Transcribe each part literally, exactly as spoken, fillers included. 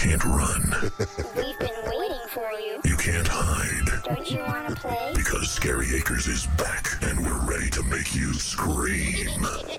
can't run. We've been waiting for you. You can't hide. Don't you want to play? Because Scary Acres is back, and we're ready to make you scream.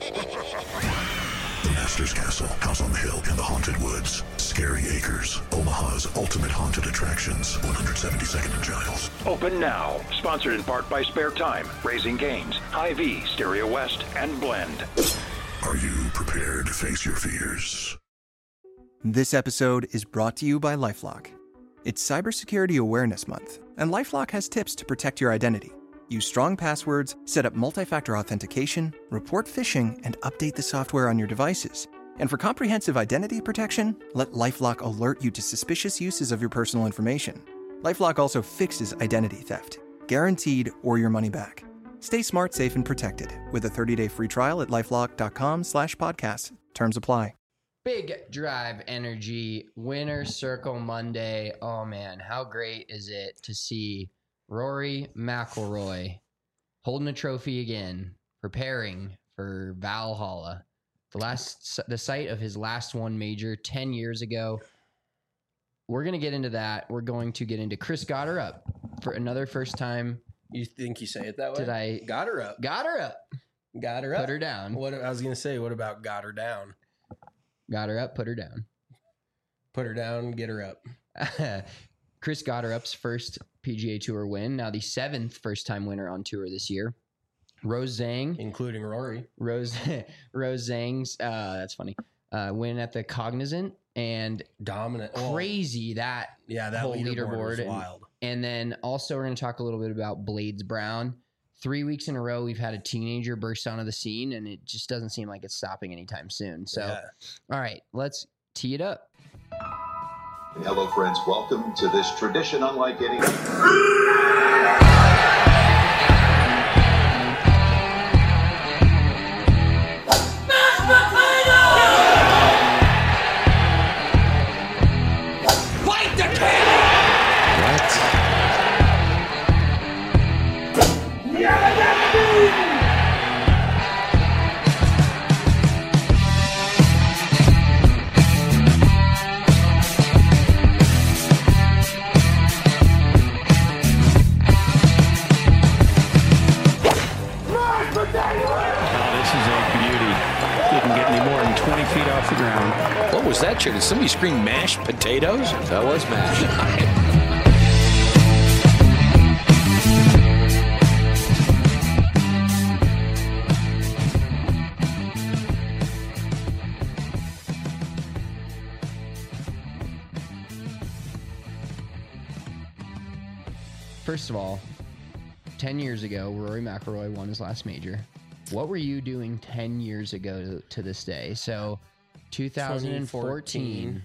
The Master's Castle, House on the Hill, and the Haunted Woods. Scary Acres, Omaha's ultimate haunted attractions. one seventy-second and Giles. Open now. Sponsored in part by Spare Time, Raising Cane's, Hy-Vee, Stereo West, and Blend. Are you prepared to face your fears? This episode is brought to you by LifeLock. It's Cybersecurity Awareness Month, and LifeLock has tips to protect your identity. Use strong passwords, set up multi-factor authentication, report phishing, and update the software on your devices. And for comprehensive identity protection, let LifeLock alert you to suspicious uses of your personal information. LifeLock also fixes identity theft, guaranteed or your money back. Stay smart, safe, and protected with a thirty-day free trial at LifeLock.com slash podcast. Terms apply. Big Drive Energy Winner Circle Monday. Oh, man, how great is it to see Rory McIlroy holding a trophy again, preparing for Valhalla, the last, the site of his last one major ten years ago. We're going to get into that. We're going to get into Chris got her up for another first time. You think you say it that way? Did I got her up? Got her up. Got her up. Put her down. What I was going to say, what about got her down? Got her up, put her down. Put her down, get her up. Chris Gotterup's first P G A Tour win, now the seventh first-time winner on tour this year. Rose Zhang. Including Rory. Rose Rose Zhang's, uh, that's funny, uh, win at the Cognizant. And dominant. Crazy that, yeah, that whole leaderboard, leaderboard. was and, wild. And then also we're going to talk a little bit about Blades Brown. Three weeks in a row, we've had a teenager burst onto the scene, and it just doesn't seem like it's stopping anytime soon. So, yeah. All right, let's tee it up. Hello, friends. Welcome to this tradition unlike any. What was that, Chair? Did somebody scream mashed potatoes? That was mashed. First of all, ten years ago, Rory McIlroy won his last major. What were you doing ten years ago to, to this day? So, two thousand fourteen.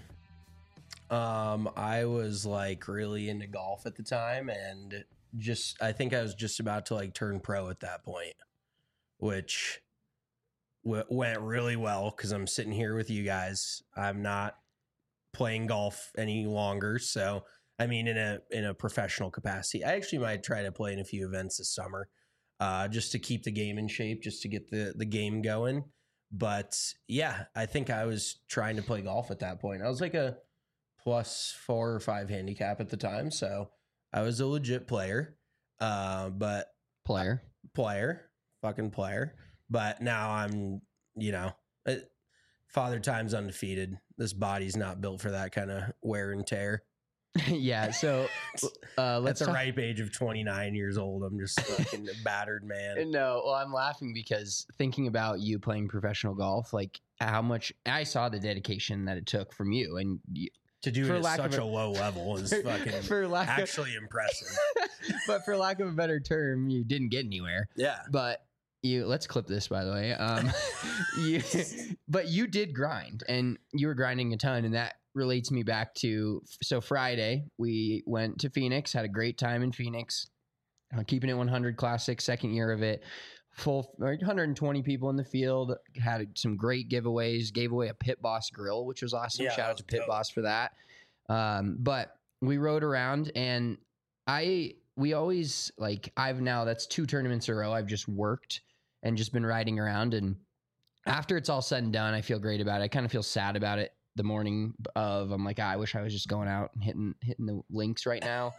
Um, I was like really into golf at the time, and just I think I was just about to like turn pro at that point, which w- went really well because I'm sitting here with you guys. I'm not playing golf any longer, so I mean, in a in a professional capacity, I actually might try to play in a few events this summer. Uh, just to keep the game in shape, just to get the, the game going. But yeah, I think I was trying to play golf at that point. I was like a plus four or five handicap at the time. So I was a legit player, uh, but player, player, fucking player. But now I'm, you know, it, father time's undefeated. This body's not built for that kind of wear and tear. Yeah, so uh, let's at the talk- ripe age of twenty-nine years old, I'm just fucking a battered man. No, well, I'm laughing because thinking about you playing professional golf, like how much I saw the dedication that it took from you, and you, to do it at such a, a low level is fucking for lack actually of, impressive. But for lack of a better term, you didn't get anywhere. Yeah, but you let's clip this, by the way. Um, you, but you did grind, and you were grinding a ton, and that relates me back to, so Friday we went to Phoenix, had a great time in Phoenix, uh, keeping it one hundred Classic, second year of it, full one hundred twenty people in the field, had some great giveaways, gave away a Pit Boss grill, which was awesome. Yeah, Shout out to Pit dope. Boss for that. Um, but we rode around, and I, we always like, I've now, that's two tournaments in a row. I've just worked and just been riding around, and after it's all said and done, I feel great about it. I kind of feel sad about it the morning of. I'm like, ah, I wish I was just going out and hitting hitting the links right now.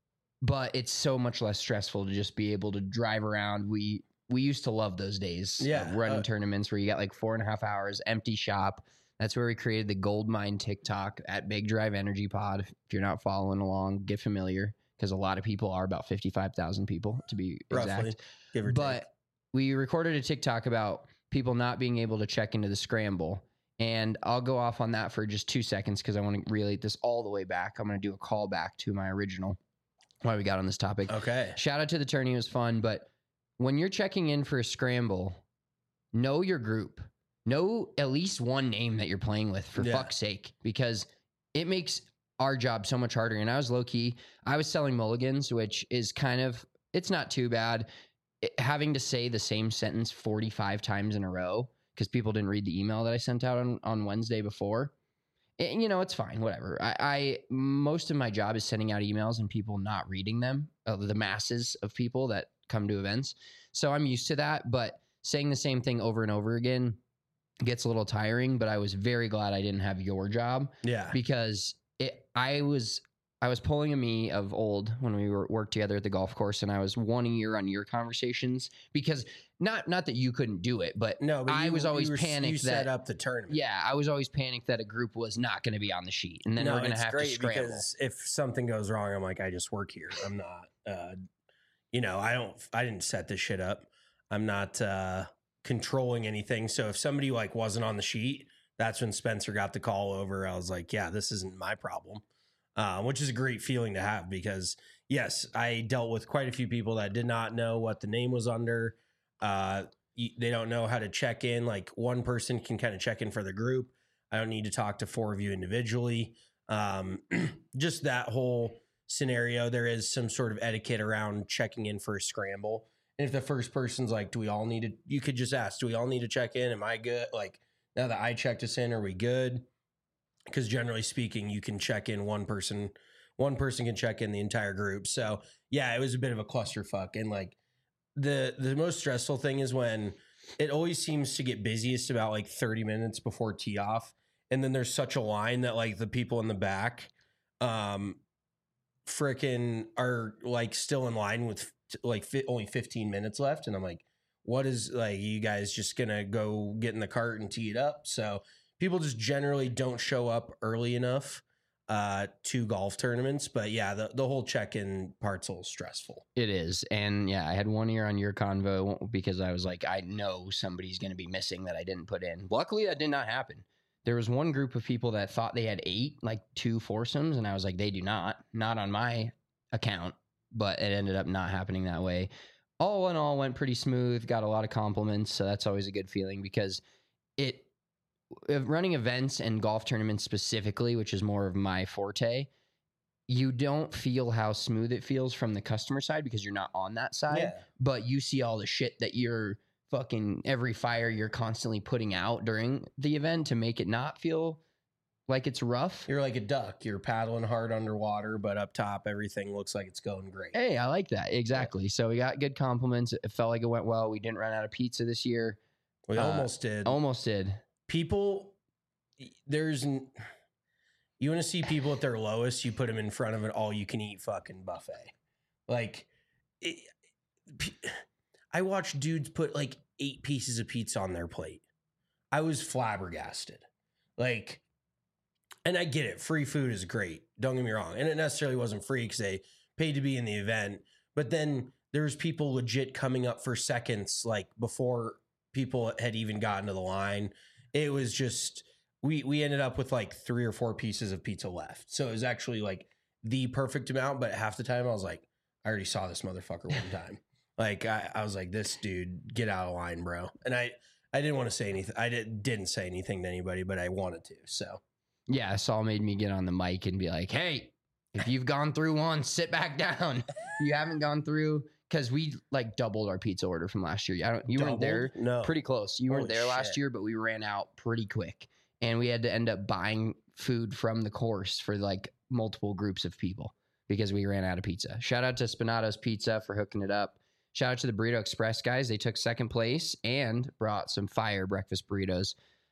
But it's so much less stressful to just be able to drive around. We we used to love those days. Yeah, of running uh, tournaments where you got like four and a half hours, empty shop. That's where we created the Gold Mine TikTok at Big Drive Energy Pod. If you're not following along, get familiar because a lot of people are about fifty-five thousand people to be exact. Roughly, give or but take. we recorded a TikTok about people not being able to check into the scramble. And I'll go off on that for just two seconds because I want to relate this all the way back. I'm going to do a callback to my original why we got on this topic. Okay. Shout out to the tourney. It was fun. But when you're checking in for a scramble, know your group. Know at least one name that you're playing with, for Yeah. fuck's sake, because it makes our job so much harder. And I was low key. I was selling mulligans, which is kind of, it's not too bad. It, having to say the same sentence forty-five times in a row because people didn't read the email that I sent out on, on Wednesday before. And, you know, it's fine, whatever. I, I most of my job is sending out emails and people not reading them, uh, the masses of people that come to events. So I'm used to that, but saying the same thing over and over again gets a little tiring. But I was very glad I didn't have your job. Yeah. Because it, I was I was pulling a me of old when we were worked together at the golf course, and I was one ear on your conversations because not not that you couldn't do it, but No, but I you, was always you were, panicked you that set up the tournament. yeah, I was always panicked that a group was not going to be on the sheet, and then no, we're going to it's have to great scramble. because if something goes wrong, I'm like, I just work here. I'm not, uh, you know, I don't, I didn't set this shit up. I'm not uh, controlling anything. So if somebody like wasn't on the sheet, that's when Spencer got the call over. I was like, yeah, this isn't my problem, uh, which is a great feeling to have because yes, I dealt with quite a few people that did not know what the name was under. Uh, they don't know how to check in. Like one person can kind of check in for the group. I don't need to talk to four of you individually. Um, just that whole scenario. There is some sort of etiquette around checking in for a scramble. And if the first person's like, do we all need to, you could just ask, do we all need to check in? Am I good? Like now that I checked us in, are we good? Because generally speaking, you can check in one person, one person can check in the entire group. So yeah, it was a bit of a clusterfuck. And like the, the most stressful thing is when it always seems to get busiest about like thirty minutes before tee off. And then there's such a line that like the people in the back, um, frickin' are like still in line with like fi- only fifteen minutes left. And I'm like, what is like, you guys just gonna go get in the cart and tee it up? So people just generally don't show up early enough uh, to golf tournaments. But yeah, the, the whole check-in part's a little stressful. It is. And yeah, I had one ear on your convo because I was like, I know somebody's going to be missing that I didn't put in. Luckily, that did not happen. There was one group of people that thought they had eight, like two foursomes. And I was like, they do not, not on my account, but it ended up not happening that way. All in all, went pretty smooth, got a lot of compliments. So that's always a good feeling because it, running events and golf tournaments specifically, which is more of my forte, you don't feel how smooth it feels from the customer side because you're not on that side, Yeah. but you see all the shit that you're fucking every fire you're constantly putting out during the event to make it not feel like it's rough. You're like a duck. You're paddling hard underwater, but up top, everything looks like it's going great. Hey, I like that. Exactly. So we got good compliments. It felt like it went well. We didn't run out of pizza this year. We Uh, almost did. Almost did. People, there's, n- you want to see people at their lowest, you put them in front of an all-you-can-eat fucking buffet. Like, it, p- I watched dudes put like eight pieces of pizza on their plate. I was flabbergasted. Like, and I get it. Free food is great. Don't get me wrong. And it necessarily wasn't free because they paid to be in the event. But then there's people legit coming up for seconds, like before people had even gotten to the line. It was just, we, we ended up with like three or four pieces of pizza left. So it was actually like the perfect amount. But half the time I was like, I already saw this motherfucker one time. Like, I, I was like, this dude, get out of line, bro. And I, I didn't want to say anything. I did, didn't say anything to anybody, but I wanted to. So Yeah, Saul made me get on the mic and be like, hey, if you've gone through one, sit back down. You haven't gone through, because we like doubled our pizza order from last year. I don't, you weren't there. Doubled? No. Pretty close. You weren't Holy there last shit. year, but we ran out pretty quick. And we had to end up buying food from the course for like multiple groups of people because we ran out of pizza. Shout out to Spinato's Pizza for hooking it up. Shout out to the Burrito Express guys. They took second place and brought some fire breakfast burritos.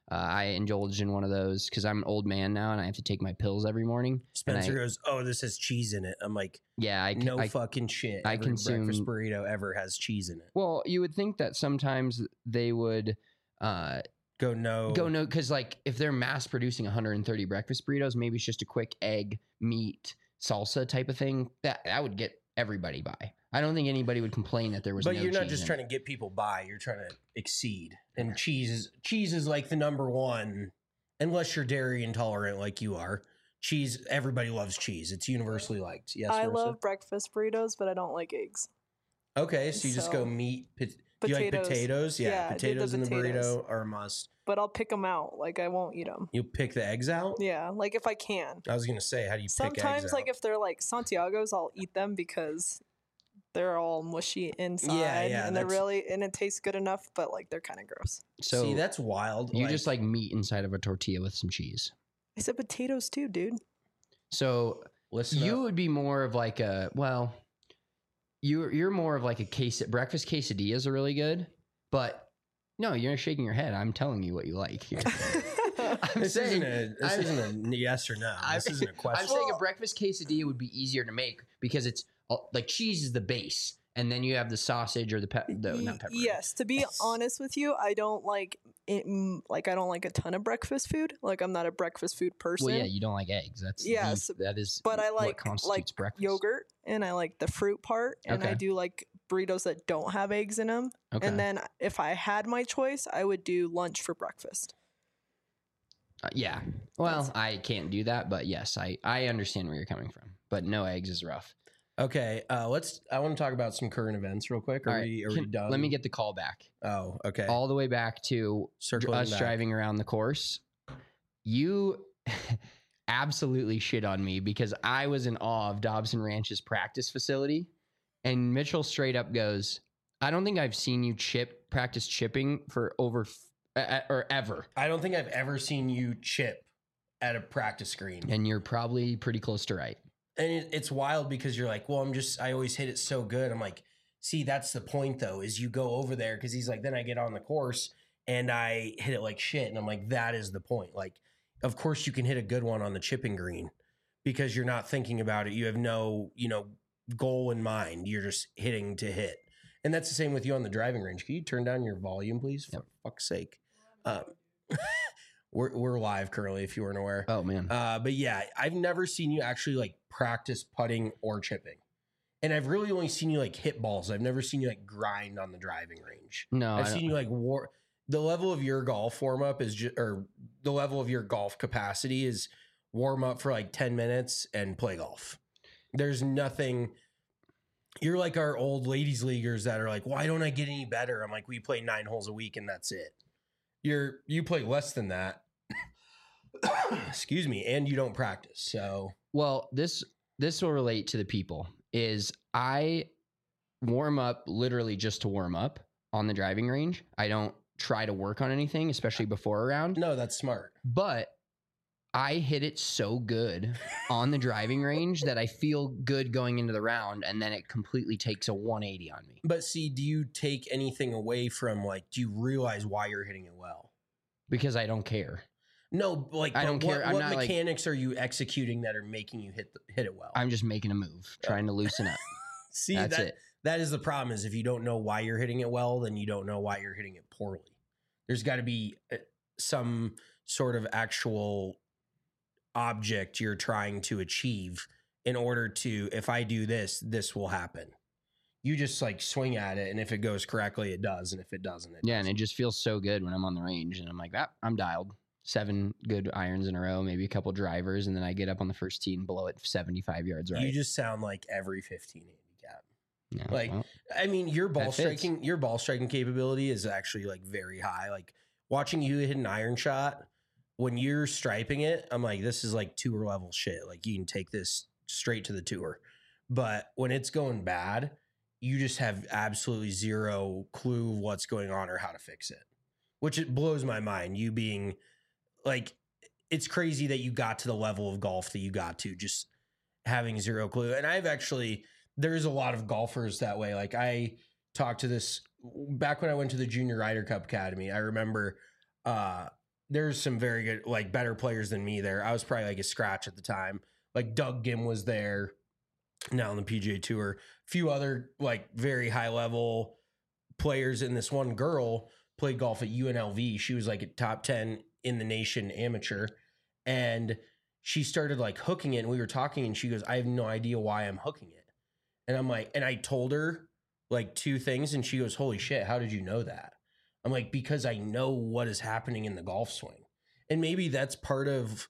Uh, I indulged in one of those because I'm an old man now and I have to take my pills every morning. Spencer I, goes, "Oh, this has cheese in it." I'm like, "Yeah, I no I, fucking shit. I Every consume breakfast burrito ever has cheese in it." Well, you would think that sometimes they would uh, go no, go no, because like if they're mass producing one hundred thirty breakfast burritos, maybe it's just a quick egg, meat, salsa type of thing. That that would get everybody by. I don't think anybody would complain that there was. But no you're not cheese just in trying it. to get people by. You're trying to exceed. And cheese is cheese is like the number one, unless you're dairy intolerant like you are. Cheese, everybody loves cheese. It's universally liked. Yes, I Marissa? love breakfast burritos, but I don't like eggs. Okay, so you just So- go meat. Pot- do you like Potatoes. potatoes? Yeah, Yeah, I did the potatoes in the potatoes. burrito are a must. But I'll pick them out. Like I won't eat them. You pick the eggs out? Yeah, like if I can. I was gonna say, how do you pick Sometimes, eggs like out? if they're like Santiago's, I'll eat them because they're all mushy inside, yeah, and they're that's- really and it tastes good enough, but like they're kind of gross. So See, that's wild. you just like meat inside of a tortilla with some cheese. I said potatoes too, dude. So listen. you up. would be more of like a well, you're you're more of like a case breakfast quesadillas are really good, but no, you're shaking your head. I'm telling you what you like here. I'm This saying isn't a this I'm- isn't a yes or no. This I'm- isn't a question. I'm saying a breakfast quesadilla would be easier to make because it's uh, like cheese is the base, and then you have the sausage or the pe- the not pepper. Yes, to be honest with you, I don't like it. mm, Like I don't like a ton of breakfast food. Like I'm not a breakfast food person. Well, yeah, you don't like eggs. That's Yes, the, that is. but I what like constitutes like breakfast. yogurt, and I like the fruit part, and I Okay. do like burritos that don't have eggs in them. Okay. And then if I had my choice, I would do lunch for breakfast. Uh, yeah. Well, I can't do that, but yes, I I understand where you're coming from. But no eggs is rough. Okay, uh, let's. I want to talk about some current events real quick. Are All right, we? Are can- we done? Let me get the call back. Oh, okay. All the way back to Circling us back. driving around the course. You absolutely shit on me because I was in awe of Dobson Ranch's practice facility, and Mitchell straight up goes, "I don't think I've seen you chip practice chipping for over f- uh, or ever." I don't think I've ever seen you chip at a practice screen. And you're probably pretty close to right. And it, it's wild because you're like, well, I'm just, I always hit it so good. I'm like, see, that's the point though, is you go over there because he's like, then I get on the course and I hit it like shit. And I'm like, that is the point. Like, of course you can hit a good one on the chipping green because you're not thinking about it. You have no, you know, goal in mind. You're just hitting to hit. And that's the same with you on the driving range. Can you turn down your volume, please? For Yep. fuck's sake. Um, we're, we're live currently, if you weren't aware. Oh man. Uh, but yeah, I've never seen you actually like practice putting or chipping. And I've really only seen you like hit balls. I've never seen you like grind on the driving range. no, I've I seen don't- you like war. The level of your golf warm up is just, or the level of your golf capacity is warm up for like ten minutes and play golf. There's nothing. You're like our old ladies leaguers that are like, why don't I get any better? I'm like, we play nine holes a week and that's it. You're, you play less than that. Excuse me. And you don't practice. So Well, this this will relate to the people. Is I warm up literally just to warm up on the driving range. I don't try to work on anything, especially before a round. no, that's smart. But I hit it so good on the driving range that I feel good going into the round, and then it completely takes a one eighty on me But see, do you take anything away from like, do you realize why you're hitting it well? because I don't care. No, like I but don't what, care. I'm What not, like- mechanics are you executing that are making you hit the, hit it well? I'm just making a move, trying to loosen up. See, That's that, it. that is the problem. Is if you don't know why you're hitting it well, then you don't know why you're hitting it poorly. There's got to be uh, some sort of actual object you're trying to achieve in order to. If I do this, this will happen. You just like swing at it, and if it goes correctly, it does, and if it doesn't, it Yeah, and doesn't. it just feels so good when I'm on the range, and I'm like, ah, I'm dialed. Seven good irons in a row, maybe a couple drivers, and then I get up on the first tee and blow it seventy-five yards right. You just sound like every fifteen handicap. Yeah, like, well, I mean, your ball that fits. striking, your ball striking capability is actually like very high. Like watching you hit an iron shot when you're striping it, I'm like, this is like tour level shit. Like you can take this straight to the tour. But when it's going bad, you just have absolutely zero clue what's going on or how to fix it, which it blows my mind. You being like, it's crazy that you got to the level of golf that you got to, just having zero clue. And I've actually, there's a lot of golfers that way. Like I talked to this back when I went to the Junior Ryder Cup Academy. I remember uh, there's some very good, like better players than me there. I was probably like a scratch at the time. Like Doug Gim was there now on the P G A Tour. A few other like very high level players, and this one girl played golf at U N L V. She was like a top ten in the nation amateur, and she started like hooking it. And we were talking, and she goes, "I have no idea why I'm hooking it." And I'm like, and I told her like two things, and she goes, "Holy shit, how did you know that?" I'm like, because I know what is happening in the golf swing. And maybe that's part of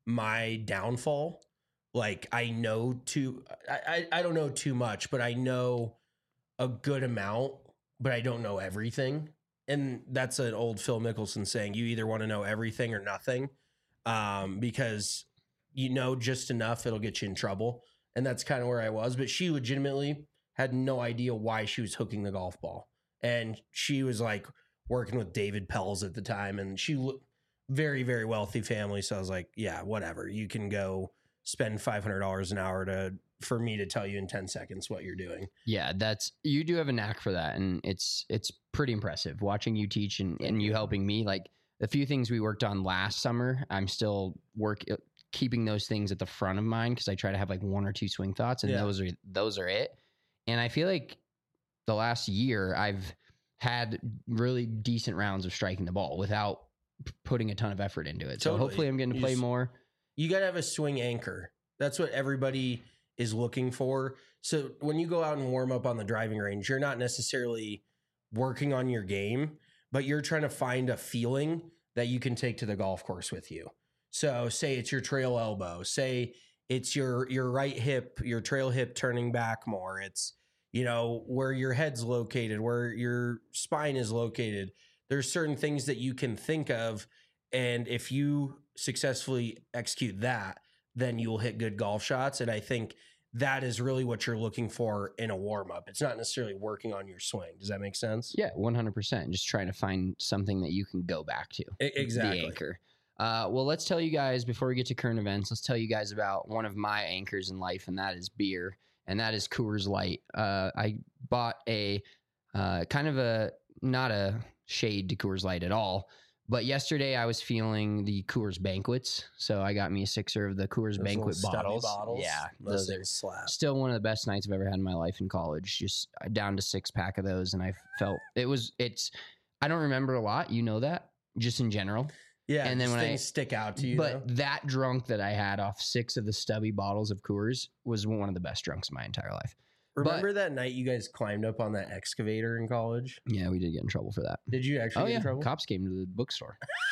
my downfall. Like I know too, I, I, I don't know too much, but I know a good amount, but I don't know everything. And that's an old Phil Mickelson saying, you either want to know everything or nothing, um, because you know just enough, it'll get you in trouble. And that's kind of where I was. But she legitimately had no idea why she was hooking the golf ball. And she was like working with David Pells at the time. And she looked very, very wealthy family. So I was like, yeah, whatever. You can go spend five hundred dollars an hour to for me to tell you in ten seconds what you're doing. Yeah, that's you do have a knack for that. And it's it's pretty impressive watching you teach and, and you helping me. Like the few things we worked on last summer, I'm still work keeping those things at the front of mind because I try to have like one or two swing thoughts, and yeah. those are those are it. And I feel like the last year I've had really decent rounds of striking the ball without p- putting a ton of effort into it. So Totally. hopefully I'm getting to You play just- more. You got to have a swing anchor. That's what everybody is looking for. So when you go out and warm up on the driving range, you're not necessarily working on your game, but you're trying to find a feeling that you can take to the golf course with you. So say it's your trail elbow, say it's your, your right hip, your trail hip turning back more. It's, you know, where your head's located, where your spine is located. There's certain things that you can think of. And if you successfully execute that, then you'll hit good golf shots. And I think that is really what you're looking for in a warm up. It's not necessarily working on your swing. Does that make sense? Yeah, one hundred percent. Just trying to find something that you can go back to. E- exactly. The anchor. Uh, well, let's tell you guys, before we get to current events, let's tell you guys about one of my anchors in life, and that is beer, and that is Coors Light. Uh, I bought a uh, kind of a, not a shade to Coors Light at all, but yesterday I was feeling the Coors Banquets, so I got me a sixer of the Coors Those Banquet little stubby bottles. bottles. Yeah, Those those are things slap. still one of the best nights I've ever had in my life in college. Just down to six pack of those, and I felt it was. It's. I don't remember a lot, you know that, just in general. Yeah, and then when things I stick out to you. but though. that drunk that I had off six of the stubby bottles of Coors was one of the best drunks of my entire life. Remember that night you guys climbed up on that excavator in college? Yeah, we did get in trouble for that. Did you actually Oh get yeah, in trouble? cops came to the bookstore.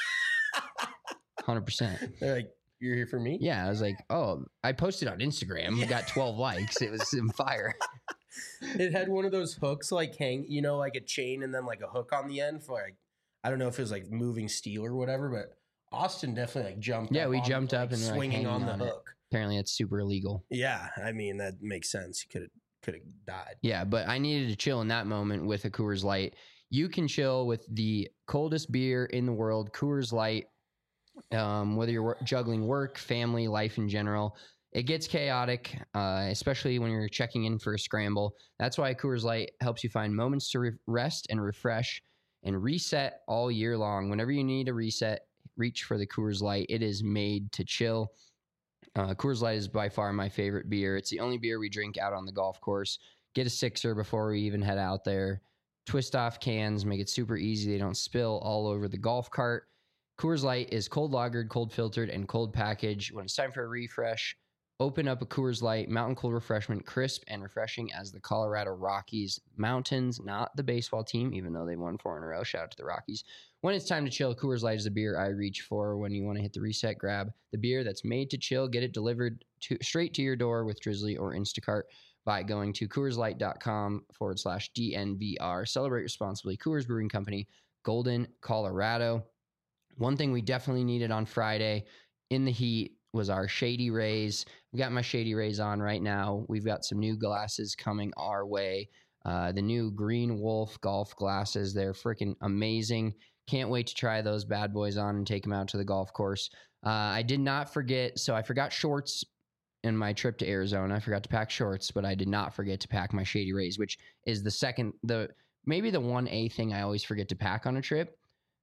Hundred percent. They're like, "You're here for me?" Yeah, I was like, oh, I posted on Instagram. We got twelve likes. It was in fire. It had one of those hooks, like hang, you know, like a chain, and then like a hook on the end for like, I don't know if it was like moving steel or whatever, but Austin definitely like jumped. Yeah, up we on, jumped like, up and were, like, swinging on hanging the on it. hook. Apparently, it's super illegal. Yeah, I mean that makes sense. You could have could have died. Yeah, but I needed to chill in that moment with a Coors Light. You can chill with the coldest beer in the world, Coors Light. Um, whether you're wor- juggling work, family, life in general, it gets chaotic, uh, especially when you're checking in for a scramble. That's why Coors Light helps you find moments to re- rest and refresh and reset all year long. Whenever you need a reset, reach for the Coors Light. It is made to chill. Uh, Coors Light is by far my favorite beer. It's the only beer we drink out on the golf course. Get a sixer before we even head out there. Twist off cans, make it super easy. They don't spill all over the golf cart. Coors Light is cold lagered, cold filtered, and cold packaged. When it's time for a refresh, open up a Coors Light Mountain Cold Refreshment, crisp and refreshing as the Colorado Rockies Mountains, not the baseball team, even though they won four in a row. Shout out to the Rockies. When it's time to chill, Coors Light is the beer I reach for. When you want to hit the reset, grab the beer that's made to chill. Get it delivered to straight to your door with Drizzly or Instacart by going to CoorsLight.com forward slash DNVR. Celebrate responsibly. Coors Brewing Company, Golden, Colorado. One thing we definitely needed on Friday in the heat was our Shady Rays. I've got my Shady Rays on right now. We've got some new glasses coming our way. Uh, the new Green Wolf golf glasses. They're freaking amazing. Can't wait to try those bad boys on and take them out to the golf course. Uh, I did not forget, so I forgot shorts in my trip to Arizona. I forgot to pack shorts, but I did not forget to pack my Shady Rays, which is the second, the maybe the one A thing I always forget to pack on a trip.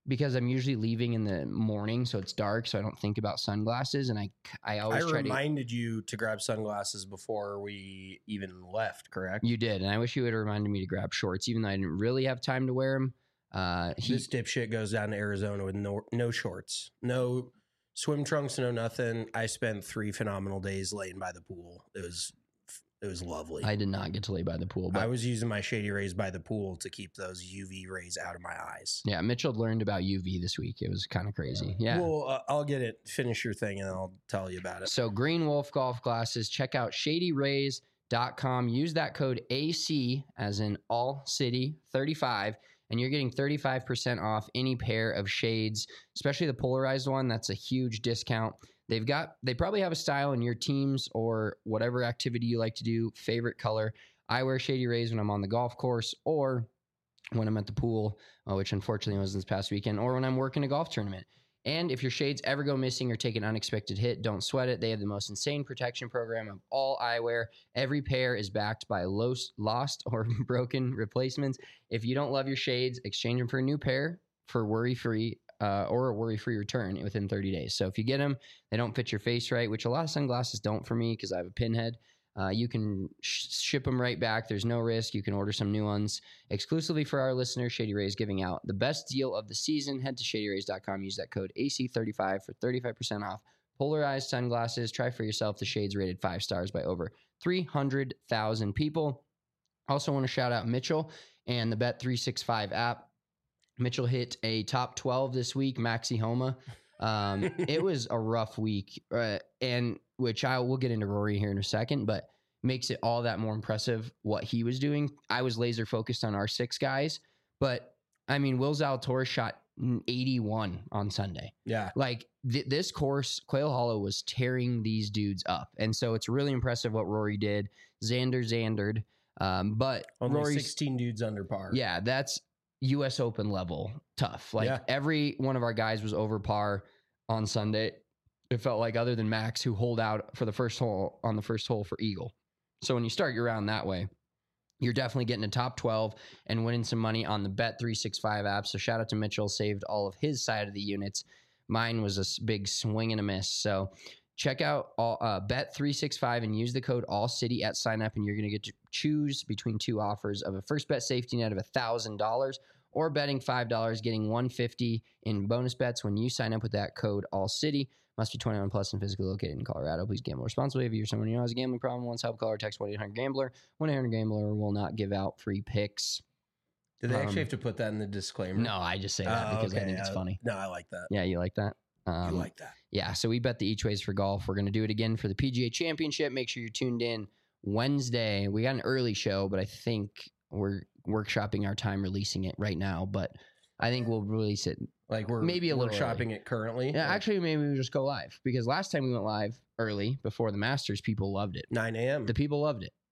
because I'm usually leaving in the morning, so it's dark, so I don't think about sunglasses. And I, I always I try reminded to, you to grab sunglasses before we even left, correct? You did, and I wish you would have reminded me to grab shorts, even though I didn't really have time to wear them. Uh, he, this dipshit goes down to Arizona with no no shorts, no swim trunks, no nothing. I spent three phenomenal days laying by the pool. It was it was lovely. I did not get to lay by the pool, but I was using my Shady Rays by the pool to keep those U V rays out of my eyes. Yeah, Mitchell learned about U V this week. It was kind of crazy. Yeah. Well, uh, I'll get it. Finish your thing, and I'll tell you about it. So Green Wolf golf glasses. Check out shady rays dot com. Use that code A C as in all city thirty-five. And you're getting thirty-five percent off any pair of shades, especially the polarized one. That's a huge discount. They've got, they probably have a style in your teams or whatever activity you like to do, favorite color. I wear Shady Rays when I'm on the golf course or when I'm at the pool, uh, which unfortunately was this past weekend, or when I'm working a golf tournament. And if your shades ever go missing or take an unexpected hit, don't sweat it. They have the most insane protection program of all eyewear. Every pair is backed by lost or broken replacements. If you don't love your shades, exchange them for a new pair for worry-free uh, or a worry-free return within thirty days. So if you get them, they don't fit your face right, which a lot of sunglasses don't for me because I have a pinhead. Uh, you can sh- ship them right back. There's no risk. You can order some new ones exclusively for our listeners. Shady Rays giving out the best deal of the season. Head to shady rays dot com. Use that code A C thirty-five for thirty-five percent off. Polarized sunglasses. Try for yourself. The shades rated five stars by over three hundred thousand people. Also want to shout out Mitchell and the Bet three sixty-five app. Mitchell hit a top twelve this week, Maxi Homa. Um, it was a rough week, uh, and which I will get into Rory here in a second, but makes it all that more impressive what he was doing. I was laser focused on our six guys, but I mean, Will Zalatoris shot eighty-one on Sunday. Yeah. Like th- this course, Quail Hollow was tearing these dudes up. And so it's really impressive what Rory did. Xander Xandered. Um, but only Rory's, sixteen dudes under par. Yeah, that's U S Open level tough. Like Yeah. every one of our guys was over par on Sunday. It felt like, other than Max, who holed out for the first hole on the first hole for Eagle. So when you start your round that way, you're definitely getting a top twelve and winning some money on the Bet three sixty-five app. So shout out to Mitchell, saved all of his side of the units. Mine was a s- big swing and a miss. So check out all, uh, Bet three sixty-five and use the code ALLCITY at sign up, and you're going to get to choose between two offers of a first bet safety net of one thousand dollars or betting five dollars, getting one hundred fifty dollars in bonus bets when you sign up with that code ALLCITY. Must be twenty-one plus and physically located in Colorado. Please gamble responsibly. If you're someone who has a gambling problem, wants help, call or text one eight hundred gambler. one eight hundred gambler will not give out free picks. Did they actually Um, have to put that in the disclaimer? No, I just say that Oh, because I okay. think it's Uh, funny. No, I like that. Yeah, you like that? Um, you like that. Yeah, so we bet the each ways for golf. We're going to do it again for the P G A Championship. Make sure you're tuned in Wednesday. We got an early show, but I think we're workshopping our time releasing it right now. But I think we'll release it. Like we're Maybe a we're little shopping early. it currently. Yeah, Like actually, maybe we just go live because last time we went live early before the Masters, people loved it. nine a.m. The people loved it.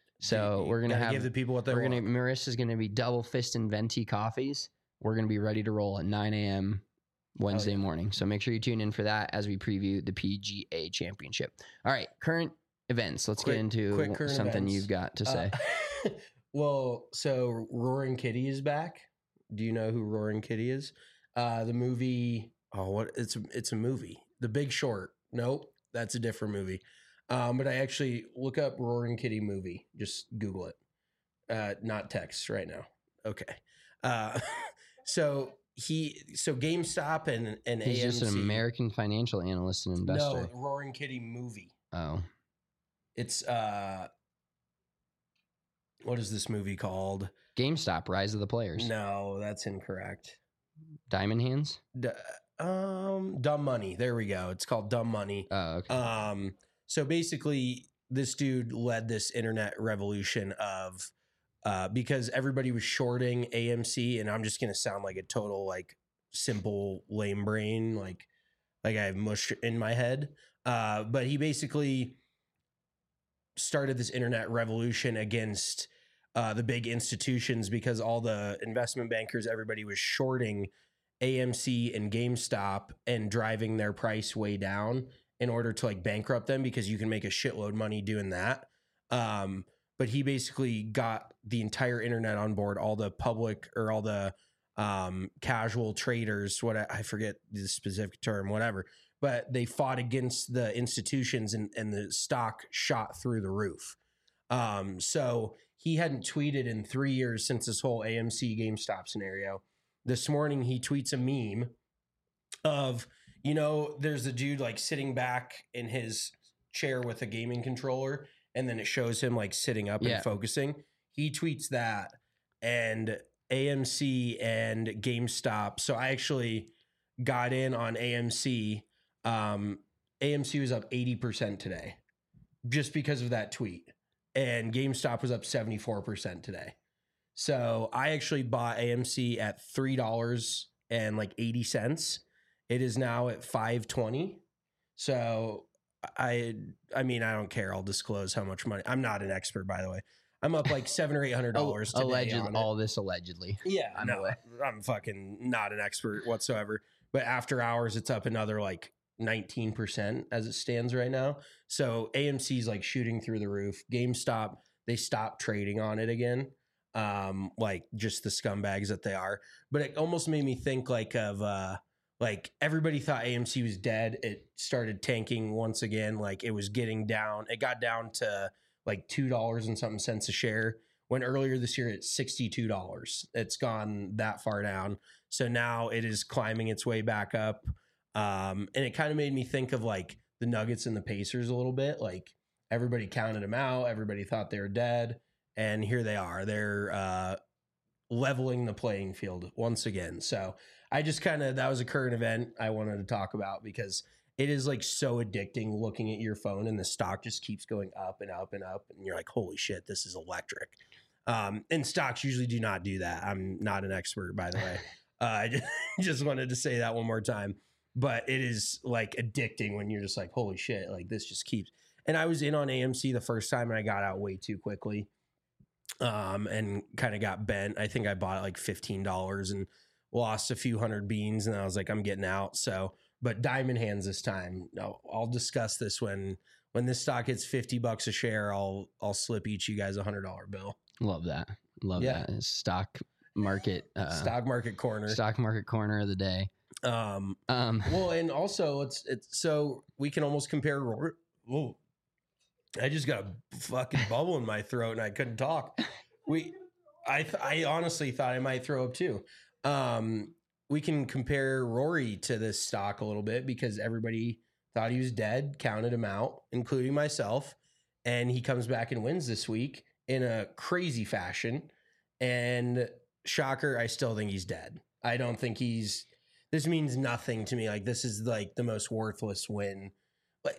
So You we're gonna gotta have give the people what they we're want. gonna Marissa's gonna be double fisting venti coffees. We're gonna be ready to roll at nine a.m. Wednesday yeah. morning. So make sure you tune in for that as we preview the P G A Championship. All right, current events. Let's Quick- get into quick current something events. you've got to say. Uh, well, so Roaring Kitty is back. Do you know who Roaring Kitty is? Uh, the movie. Oh, what? It's it's a movie. The Big Short. Nope, that's a different movie. Um, but I actually look up Roaring Kitty movie. Just Google it. Uh, not text right now. Okay. Uh, so he so GameStop and and He's A M C. just an American financial analyst and investor. No, Roaring Kitty movie. Oh, It's uh, what is this movie called? GameStop, Rise of the Players. No, that's incorrect. Diamond Hands. D- um, Dumb Money. There we go. It's called Dumb Money. Oh, okay. Um, so basically, this dude led this internet revolution of uh, because everybody was shorting A M C, and I'm just gonna sound like a total like simple lame brain, like like I have mush in my head. Uh, but he basically started this internet revolution against uh, the big institutions because all the investment bankers, everybody was shorting A M C and GameStop and driving their price way down in order to like bankrupt them because you can make a shitload of money doing that. Um, but he basically got the entire internet on board, all the public or all the um, casual traders, what I, I forget the specific term, whatever, but they fought against the institutions and, and the stock shot through the roof. Um, so he hadn't tweeted in three years since this whole A M C GameStop scenario. This morning he tweets a meme of, you know, there's a dude like sitting back in his chair with a gaming controller, and then it shows him like sitting up Yeah. and focusing. He tweets that, and A M C and GameStop. So I actually got in on A M C. Um, A M C was up eighty percent today just because of that tweet. And GameStop was up seventy-four percent today. So I actually bought A M C at three dollars and like eighty cents. It is now at five twenty. So I I mean, I don't care. I'll disclose how much money. I'm not an expert, by the way. I'm up like seven or eight hundred dollars today. Allegedly, on it. all this allegedly. Yeah, I'm no, aware. I'm fucking not an expert whatsoever. But after hours, it's up another like nineteen percent as it stands right now. So A M C's like shooting through the roof. GameStop, they stopped trading on it again. Um, like just the scumbags that they are. But it almost made me think like of uh like everybody thought A M C was dead. It started tanking once again. Like it was getting down. It got down to like two dollars and something cents a share. When earlier this year it's sixty-two dollars. It's gone that far down. So now it is climbing its way back up. Um, and it kind of made me think of like the Nuggets and the Pacers a little bit. Like everybody counted them out. Everybody thought they were dead. And here they are. They're uh, leveling the playing field once again. So I just kind of, that was a current event I wanted to talk about because it is like so addicting looking at your phone and the stock just keeps going up and up and up. And you're like, holy shit, this is electric. Um, and stocks usually do not do that. I'm not an expert, by the way. uh, I just, just wanted to say that one more time. But it is like addicting when you're just like, holy shit, like this just keeps. And I was in on A M C the first time and I got out way too quickly um, and kind of got bent. I think I bought it like fifteen dollars and lost a few hundred beans. And I was like, I'm getting out. So, but diamond hands this time. No, I'll discuss this when when this stock hits fifty bucks a share. I'll I'll slip each you guys a hundred dollar bill. Love that. Love Yeah. that. Stock market. Uh, Stock market corner. Stock market corner of the day. Um, Um, well, and also it's it's so we can almost compare. Whoa, I just got a fucking bubble in my throat and I couldn't talk. We, I th- I honestly thought I might throw up too. Um, we can compare Rory to this stock a little bit because everybody thought he was dead, counted him out, including myself, and he comes back and wins this week in a crazy fashion. And shocker, I still think he's dead. I don't think he's. This means nothing to me. Like this is like the most worthless win. Like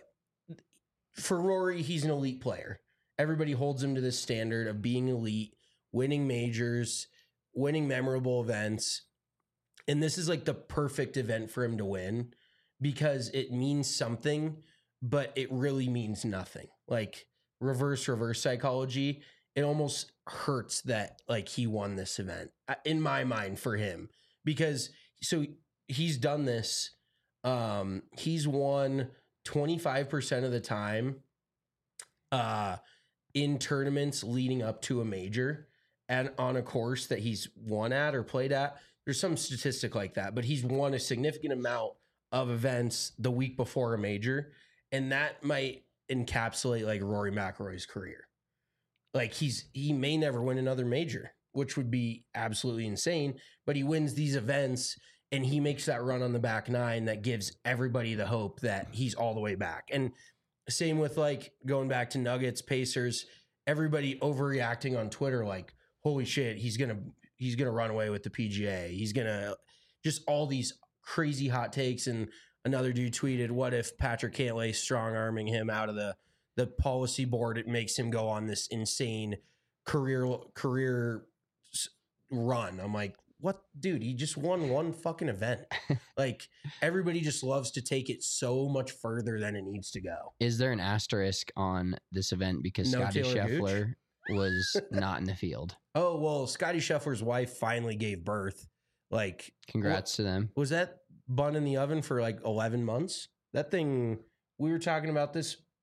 for Rory, he's an elite player. Everybody holds him to this standard of being elite, winning majors, winning memorable events. And this is like the perfect event for him to win because it means something, but it really means nothing. Like reverse, reverse psychology. It almost hurts that like he won this event in my mind for him because so he's done this. Um, he's won twenty-five percent of the time uh, in tournaments leading up to a major and on a course that he's won at or played at. There's some statistic like that, but he's won a significant amount of events the week before a major. And that might encapsulate like Rory McIlroy's career. Like he's, he may never win another major, which would be absolutely insane, but he wins these events and he makes that run on the back nine that gives everybody the hope that he's all the way back. And same with like going back to Nuggets, Pacers, everybody overreacting on Twitter, like, holy shit, he's going to, he's going to run away with the P G A. He's going to just all these crazy hot takes. And another dude tweeted, what if Patrick Cantlay strong arming him out of the, the policy board? It makes him go on this insane career, career run. I'm like, what, dude, he just won one fucking event. Like everybody just loves to take it so much further than it needs to go. Is there an asterisk on this event because No Scotty Taylor Scheffler was not in the field? Oh, well, Scotty Scheffler's wife finally gave birth. Like, Congrats to them. Was that bun in the oven for like eleven months? That thing, we were talking about this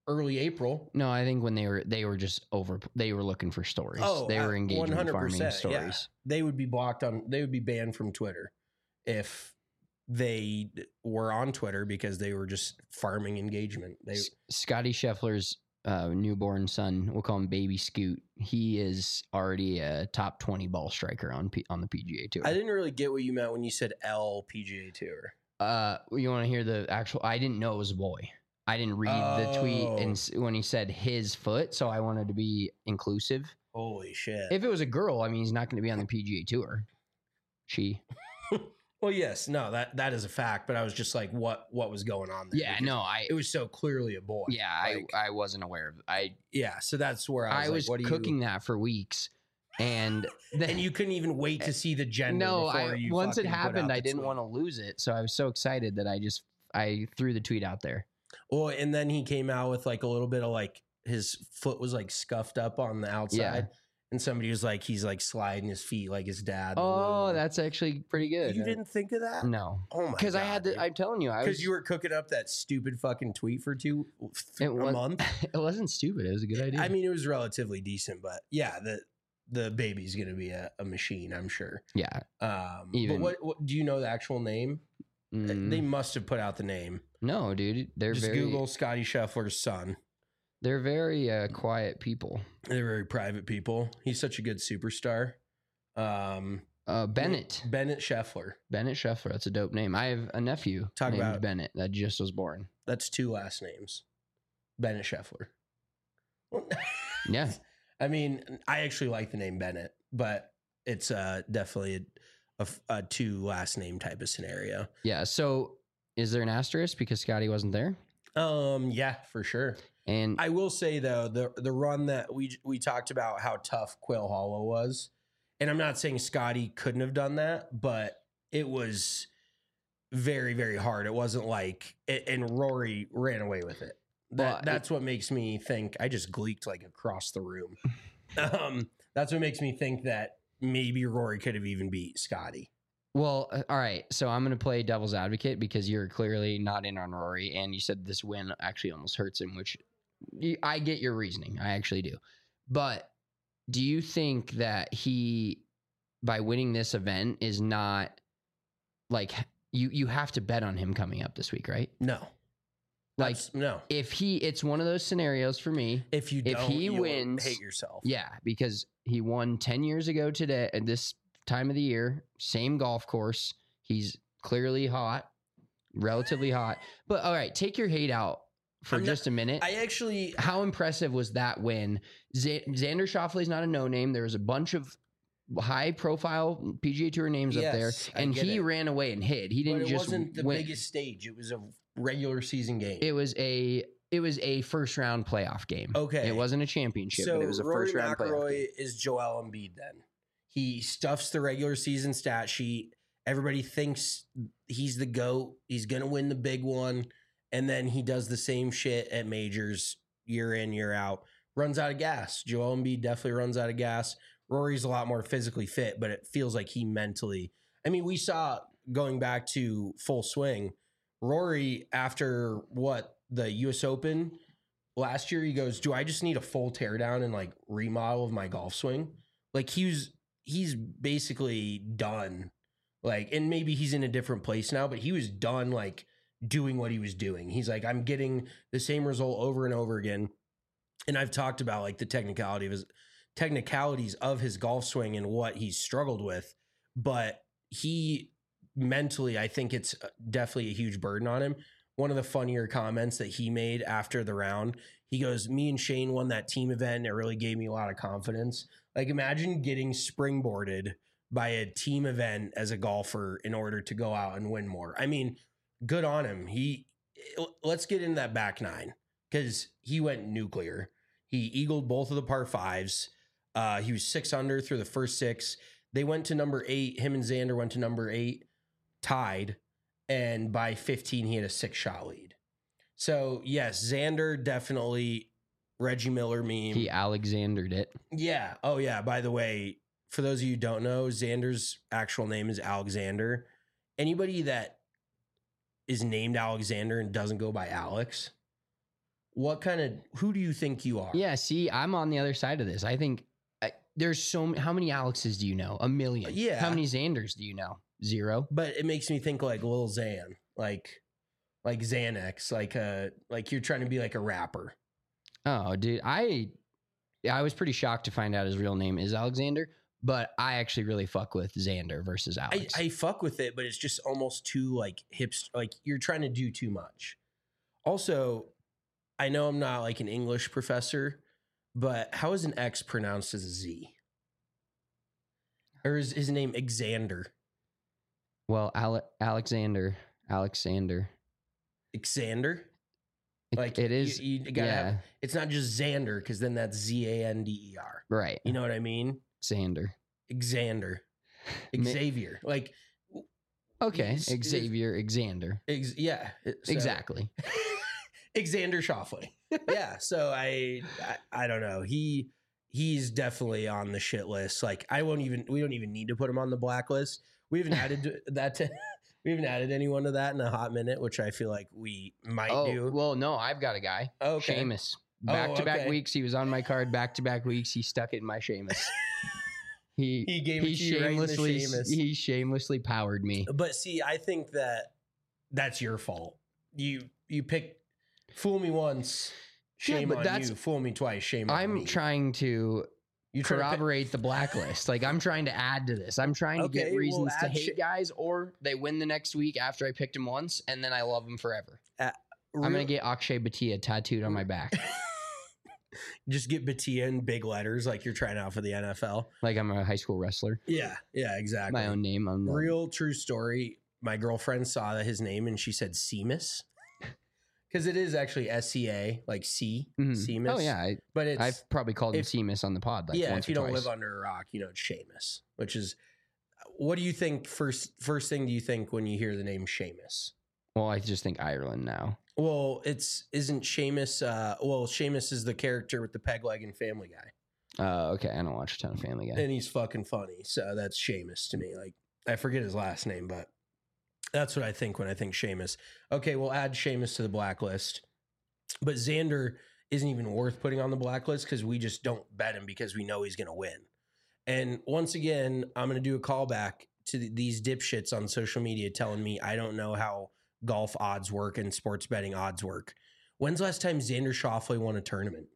early April. No, I think when they were they were just over. They were looking for stories. Oh, they were uh, engaging in farming yeah. stories. They would be blocked on. They would be banned from Twitter if they were on Twitter because they were just farming engagement. They S- Scotty Scheffler's uh, newborn son, we'll call him Baby Scoot. He is already a top twenty ball striker on P- on the P G A Tour. I didn't really get what you meant when you said L P G A Tour. Uh, you want to hear the actual? I didn't know it was a boy. I didn't read Oh. the tweet and s- when he said his foot, so I wanted to be inclusive. Holy shit! If it was a girl, I mean, he's not going to be on the P G A Tour. She. Well, yes, no, that that is a fact. But I was just like, what what was going on there? Yeah, Because no, I. it was so clearly a boy. Yeah, Like, I I wasn't aware of. I yeah. So that's where I was, I like, was what do cooking you, that for weeks, and then and you couldn't even wait to see the gender. no, before I you once it fucking put out happened, the I didn't tweet. want to lose it, so I was so excited that I just I threw the tweet out there. Well, and then he came out with like a little bit of like his foot was like scuffed up on the outside. Yeah. And somebody was like, he's like sliding his feet like his dad. Oh, that's actually pretty good. You didn't think of that? No, Oh my god. because I had to. I'm telling you, I was. Because you were cooking up that stupid fucking tweet for two It a was- month. It wasn't stupid. It was a good idea. I mean, it was relatively decent, but yeah, the the baby's gonna be a, a machine, I'm sure. yeah. Um, Even- but what, what do you know the actual name? Mm, They must have put out the name. no, dude, they're Just very. Google Scotty Scheffler's son. They're very uh, quiet people. They're very private people. He's such a good superstar. Um, Uh, Bennett. Bennett Scheffler. Bennett Scheffler. That's a dope name. I have a nephew Talk named about- Bennett that just was born. That's two last names. Bennett Scheffler. Yeah. I mean, I actually like the name Bennett, but it's uh, definitely a, a f- a two last name type of scenario. Yeah. So is there an asterisk because Scotty wasn't there? Um, yeah, for sure. And I will say though, the the run that we we talked about how tough Quail Hollow was, and I'm not saying Scotty couldn't have done that, but it was very very hard. It wasn't like, and Rory ran away with it. That Well, that's what makes me think. I just gleeked like across the room. um, that's what makes me think that maybe Rory could have even beat Scotty. well, uh, all right. So I'm going to play devil's advocate because you're clearly not in on Rory, and you said this win actually almost hurts him, which y- I get your reasoning. I actually do. But do you think that he, by winning this event, is not like you? You have to bet on him coming up this week, right? No, Like That's- no. if he, it's one of those scenarios for me. If you if don't, he you'll wins- hate yourself. Yeah, because he won ten years ago today at this time of the year, same golf course. He's clearly hot, relatively hot. But all right, take your hate out for I'm not- just a minute. I actually How impressive was that win? Z- Xander Schauffele's not a no name. There was a bunch of high profile P G A Tour names up there, Yes, I and get he it. ran away and hid. He But didn't it just wasn't the win. biggest stage. It was a regular season game. It was a it was a first round playoff game. Okay. It wasn't a championship, so but it was a Rory first round playoff McIlroy game. is Joel Embiid. Then he stuffs the regular season stat sheet. Everybody thinks he's the GOAT. He's gonna win the big one, and then he does the same shit at majors year in year out. Runs out of gas. Joel Embiid definitely runs out of gas. Rory's a lot more physically fit, but it feels like he mentally. I mean, we saw going back to Full Swing. Rory, after what the U S Open last year, he goes, "Do I just need a full teardown and like remodel of my golf swing?" Like he's he's basically done. Like, and maybe he's in a different place now, but he was done like doing what he was doing. He's like, I'm getting the same result over and over again. And I've talked about like the technicality of his technicalities of his golf swing and what he's struggled with, but he mentally, I think it's definitely a huge burden on him. One of the funnier comments that he made after the round, he goes, "Me and Shane won that team event, and it really gave me a lot of confidence." Like, imagine getting springboarded by a team event as a golfer in order to go out and win more. I mean, good on him. He let's get into that back nine because he went nuclear. He eagled both of the par fives. Uh, he was six under through the first six. They went to number eight. Him and Xander went to number eight, tied. And by fifteen, he had a six shot lead. So, yes, Xander definitely Reggie Miller meme. He Alexandered it. Yeah. Oh, yeah. By the way, for those of you who don't know, Xander's actual name is Alexander. Anybody that is named Alexander and doesn't go by Alex, what kind of who do you think you are? Yeah, see, I'm on the other side of this. I think uh, there's so many. How many Alexes do you know? A million. Yeah. How many Xanders do you know? Zero. But it makes me think like Lil Xan, like like Xanax, like uh like you're trying to be like a rapper. Oh, dude, I I was pretty shocked to find out his real name is Alexander, but I actually really fuck with Xander versus I, Alex. I fuck with it, but it's just almost too like hipster. Like you're trying to do too much. Also, I know I'm not like an English professor, but how is an X pronounced as a Z? Or is his name Xander? well, Ale- Alexander, Alexander. Xander? It- Like it is. You, you gotta yeah, have, it's not just Xander because then that's Z A N D E R. right. You know what I mean? Xander. Xander, Ma- Xavier. Like Okay, He's- he's- Xavier, Xander. ex, yeah, so- Exactly. Xander Schauffele. Yeah. So I, I I don't know. He he's definitely on the shit list. Like I won't even we don't even need to put him on the blacklist. We haven't added that to we haven't added anyone to that in a hot minute, which I feel like we might Oh, do. well, no, I've got a guy. Okay. Seamus. Oh, Back to back okay. weeks. He was on my card back to back weeks. He stuck it in my Seamus. He He gave it to you right in the shamelessly Seamus. he shamelessly powered me. But see, I think that that's your fault. You you pick fool me once, Yeah, shame but on that's- you. Fool me twice, shame on me. I'm trying to You trying to pick- corroborate the blacklist. Like I'm trying to add to this. I'm trying to Okay, get well, reasons to add hate shit- guys, or they win the next week after I picked him once, and then I love him forever. I'm Real- gonna get Akshay Bhatia tattooed on my back, just get Batia in big letters like you're trying out for the N F L. like I'm a high school wrestler. Yeah, yeah, exactly. My own name. I'm Real true story. My girlfriend saw his name and she said Seamus. Because it is actually S C A, like C, Mhm. Seamus. Oh yeah, I, But it's I've probably called him if- Seamus on the pod. Like yeah, once if you or don't twice. live under a rock, you know it's Seamus. Which is, what do you think? First, first thing do you think when you hear the name Seamus? Well, I just think Ireland now. Well, it's isn't Seamus. Uh, well, Seamus is the character with the peg leg and Family Guy, Uh, okay, I don't watch a ton of Family Guy. and he's fucking funny. So that's Seamus to me. Like I forget his last name, but that's what I think when I think Seamus. Okay, we'll add Seamus to the blacklist, but Xander isn't even worth putting on the blacklist because we just don't bet him because we know he's going to win. And once again, I'm going to do a callback to th- these dipshits on social media telling me I don't know how golf odds work and sports betting odds work. When's the last time Xander Schauffele won a tournament?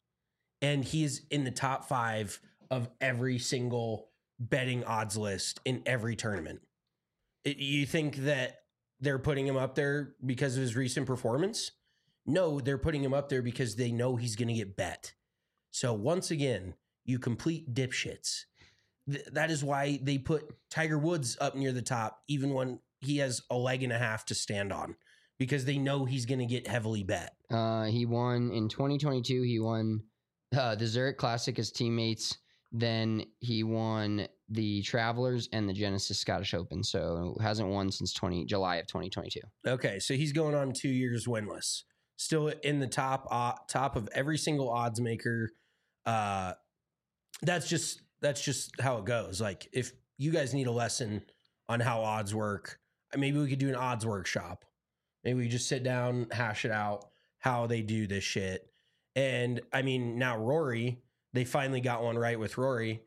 And he's in the top five of every single betting odds list in every tournament. It, you think that they're putting him up there because of his recent performance? No, they're putting him up there because they know he's going to get bet. So once again, you complete dipshits. Th- that is why they put Tiger Woods up near the top, even when he has a leg and a half to stand on, because they know he's going to get heavily bet. Uh, he won in twenty twenty-two. He won uh, the Zurich Classic as teammates. Then he won the Travelers and the Genesis Scottish Open. So hasn't won since twenty July of twenty twenty-two. Okay, so he's going on two years winless. Still in the top uh, top of every single odds maker. Uh, that's just that's just how it goes. Like if you guys need a lesson on how odds work, maybe we could do an odds workshop. Maybe we just sit down, hash it out, how they do this shit. And I mean, now Rory, they finally got one right with Rory.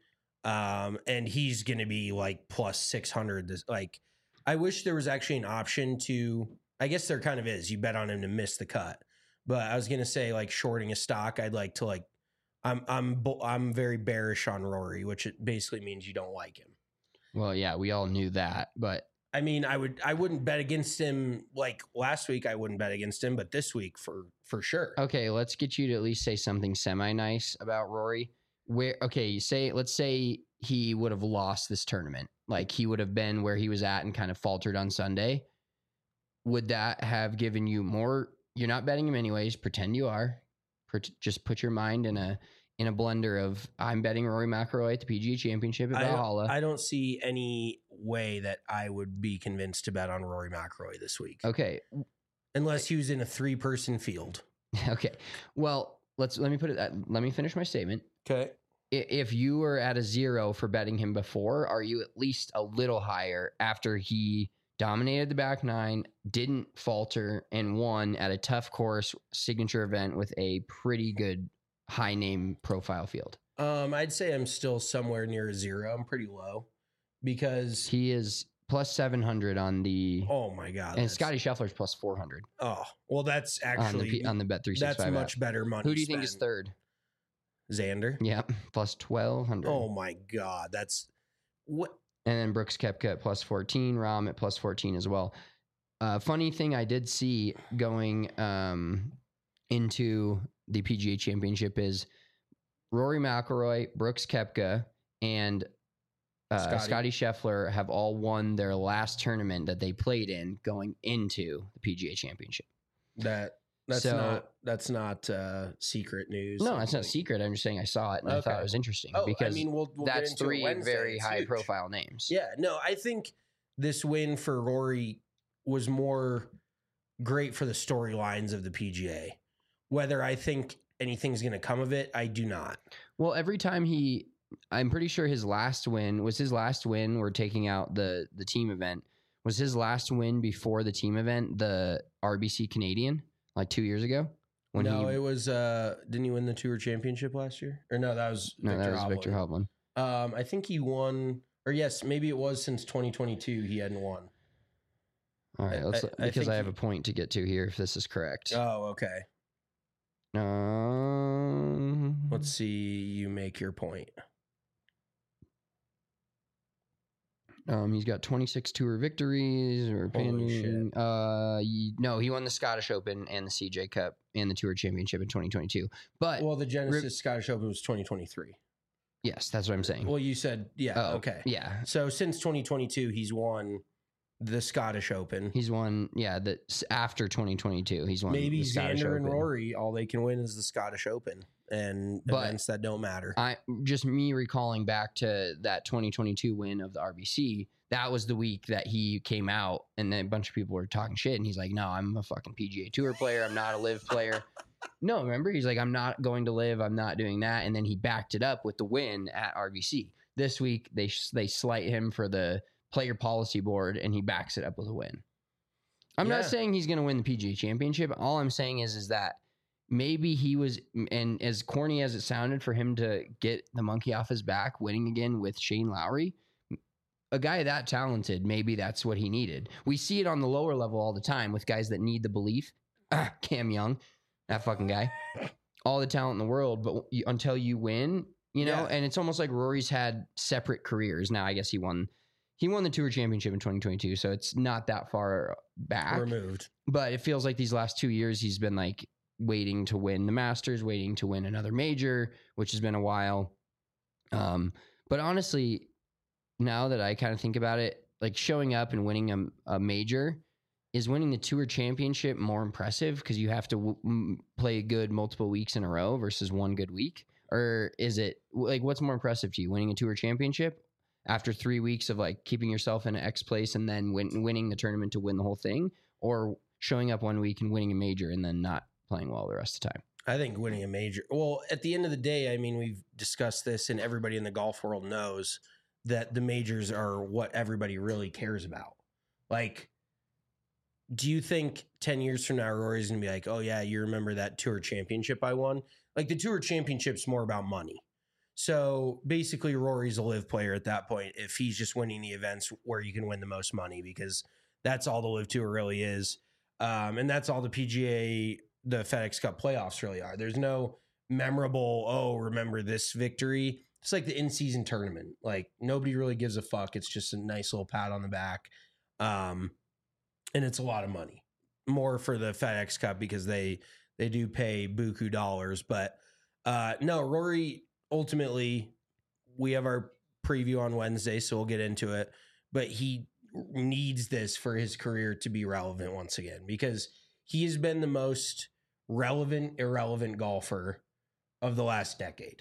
Um, and he's going to be like plus six hundred. This, like, I wish there was actually an option to, I guess there kind of is. You bet on him to miss the cut. But I was going to say like shorting a stock. I'd like to like, I'm, I'm, I'm very bearish on Rory, which it basically means you don't like him. Well, yeah, we all knew that, but I mean, I would I wouldn't bet against him like last week. I wouldn't bet against him, but this week for for sure. okay, let's get you to at least say something semi nice about Rory. Where okay, you say let's say he would have lost this tournament, like he would have been where he was at and kind of faltered on Sunday. Would that have given you more? You're not betting him anyways. Pretend you are. Just put your mind in a in a blender of I'm betting Rory McIlroy at the P G A Championship at I Valhalla. don't, I don't see any way that I would be convinced to bet on Rory McIlroy this week. Okay, Unless he was in a three person field. okay. Well, let's let me put it. That, let me finish my statement. Okay. I- If you were at a zero for betting him before, are you at least a little higher after he dominated the back nine, didn't falter, and won at a tough course signature event with a pretty good high name profile field. Um, I'd say I'm still somewhere near a zero. I'm pretty low because he is plus seven hundred on the. Oh my god! And Scotty Scheffler's plus four hundred. Oh well, that's actually on the, on the Bet three sixty-five. That's much app. better money. Who do you spent. think is third? Xander. Yep, plus twelve hundred. Oh my god, that's what. And then Brooks Koepka at plus fourteen, Rahm at plus fourteen as well. Uh, funny thing I did see going um, into the P G A Championship is Rory McIlroy, Brooks Koepka, and uh, Scotty. Scotty Scheffler have all won their last tournament that they played in going into the P G A Championship. That that's So- not that's not uh, secret news. No, it's not secret. I'm just saying I saw it and I thought Okay. it was interesting Oh, I because mean, we'll- we'll get that's into it three Wednesday. very It's high huge. profile names. Yeah, no, I think this win for Rory was more great for the storylines of the P G A. Whether I think anything's going to come of it, I do not. Well, every time he, I'm pretty sure his last win was his last win. We're taking out the the team event. Was his last win before the team event the R B C Canadian like two years ago? When no, he, it was. Uh, didn't he win the Tour Championship last year? Or no, that was no, Victor that was Hovland. Victor Hovland. Um, I think he won, or yes, maybe it was since twenty twenty-two. He hadn't won. All right, let's I- I because think I have he- a point to get to here if this is correct. Oh, okay. Um, Let's see. You make your point. Um, he's got twenty-six tour victories or Holy opinion. Uh, y- no, he won the Scottish Open and the C J Cup and the Tour Championship in twenty twenty-two. But Well, the Genesis Scottish Open was twenty twenty-three. yes, that's what I'm saying. Well, you said yeah. Oh, Okay. yeah, So since twenty twenty-two, he's won the Scottish Open. he's won. Yeah, the after twenty twenty-two, he's won. Maybe the Scottish Xander and Open. Rory, all they can win is the Scottish Open and But events that don't matter. I just me recalling back to that twenty twenty-two win of the R B C. That was the week that he came out, and then a bunch of people were talking shit, and he's like, "No, I'm a fucking P G A Tour player. I'm not a Live player." No, remember, he's like, "I'm not going to Live. I'm not doing that." And then he backed it up with the win at R B C. This week, they they slight him for the player policy board, and he backs it up with a win. I'm Yeah. not saying he's going to win the P G A Championship. All I'm saying is, is that maybe he was, and as corny as it sounded for him to get the monkey off his back, winning again with Shane Lowry, a guy that talented, maybe that's what he needed. We see it on the lower level all the time with guys that need the belief. Ah, Cam Young, that fucking guy, all the talent in the world, but you, until you win, you know, Yeah. and it's almost like Rory's had separate careers. Now, I guess he won, he won the Tour Championship in twenty twenty-two, so it's not that far back. Removed. But it feels like these last two years he's been like waiting to win the Masters, waiting to win another major, which has been a while. Um, but honestly, now that I kind of think about it, like showing up and winning a, a major, is winning the Tour Championship more impressive because you have to w- m- play good multiple weeks in a row versus one good week? Or is it like what's more impressive to you, winning a Tour Championship after three weeks of like keeping yourself in an X place and then win- winning the tournament to win the whole thing, or showing up one week and winning a major and then not playing well the rest of the time? I think winning a major. Well, at the end of the day, I mean, we've discussed this, and everybody in the golf world knows that the majors are what everybody really cares about. Like, do you think ten years from now, Rory's going to be like, oh, yeah, you remember that Tour Championship I won? Like, the Tour Championship's more about money. So basically, Rory's a Live player at that point if he's just winning the events where you can win the most money, because that's all the Live Tour really is. Um, and that's all the P G A, the FedEx Cup playoffs really are. There's no memorable, oh, remember this victory. It's like the in-season tournament. Like, nobody really gives a fuck. It's just a nice little pat on the back. Um, and it's a lot of money. More for the FedEx Cup because they they do pay buku dollars. But uh, no, Rory, ultimately, we have our preview on Wednesday, so we'll get into it. But he needs this for his career to be relevant once again, because he has been the most relevant, irrelevant golfer of the last decade.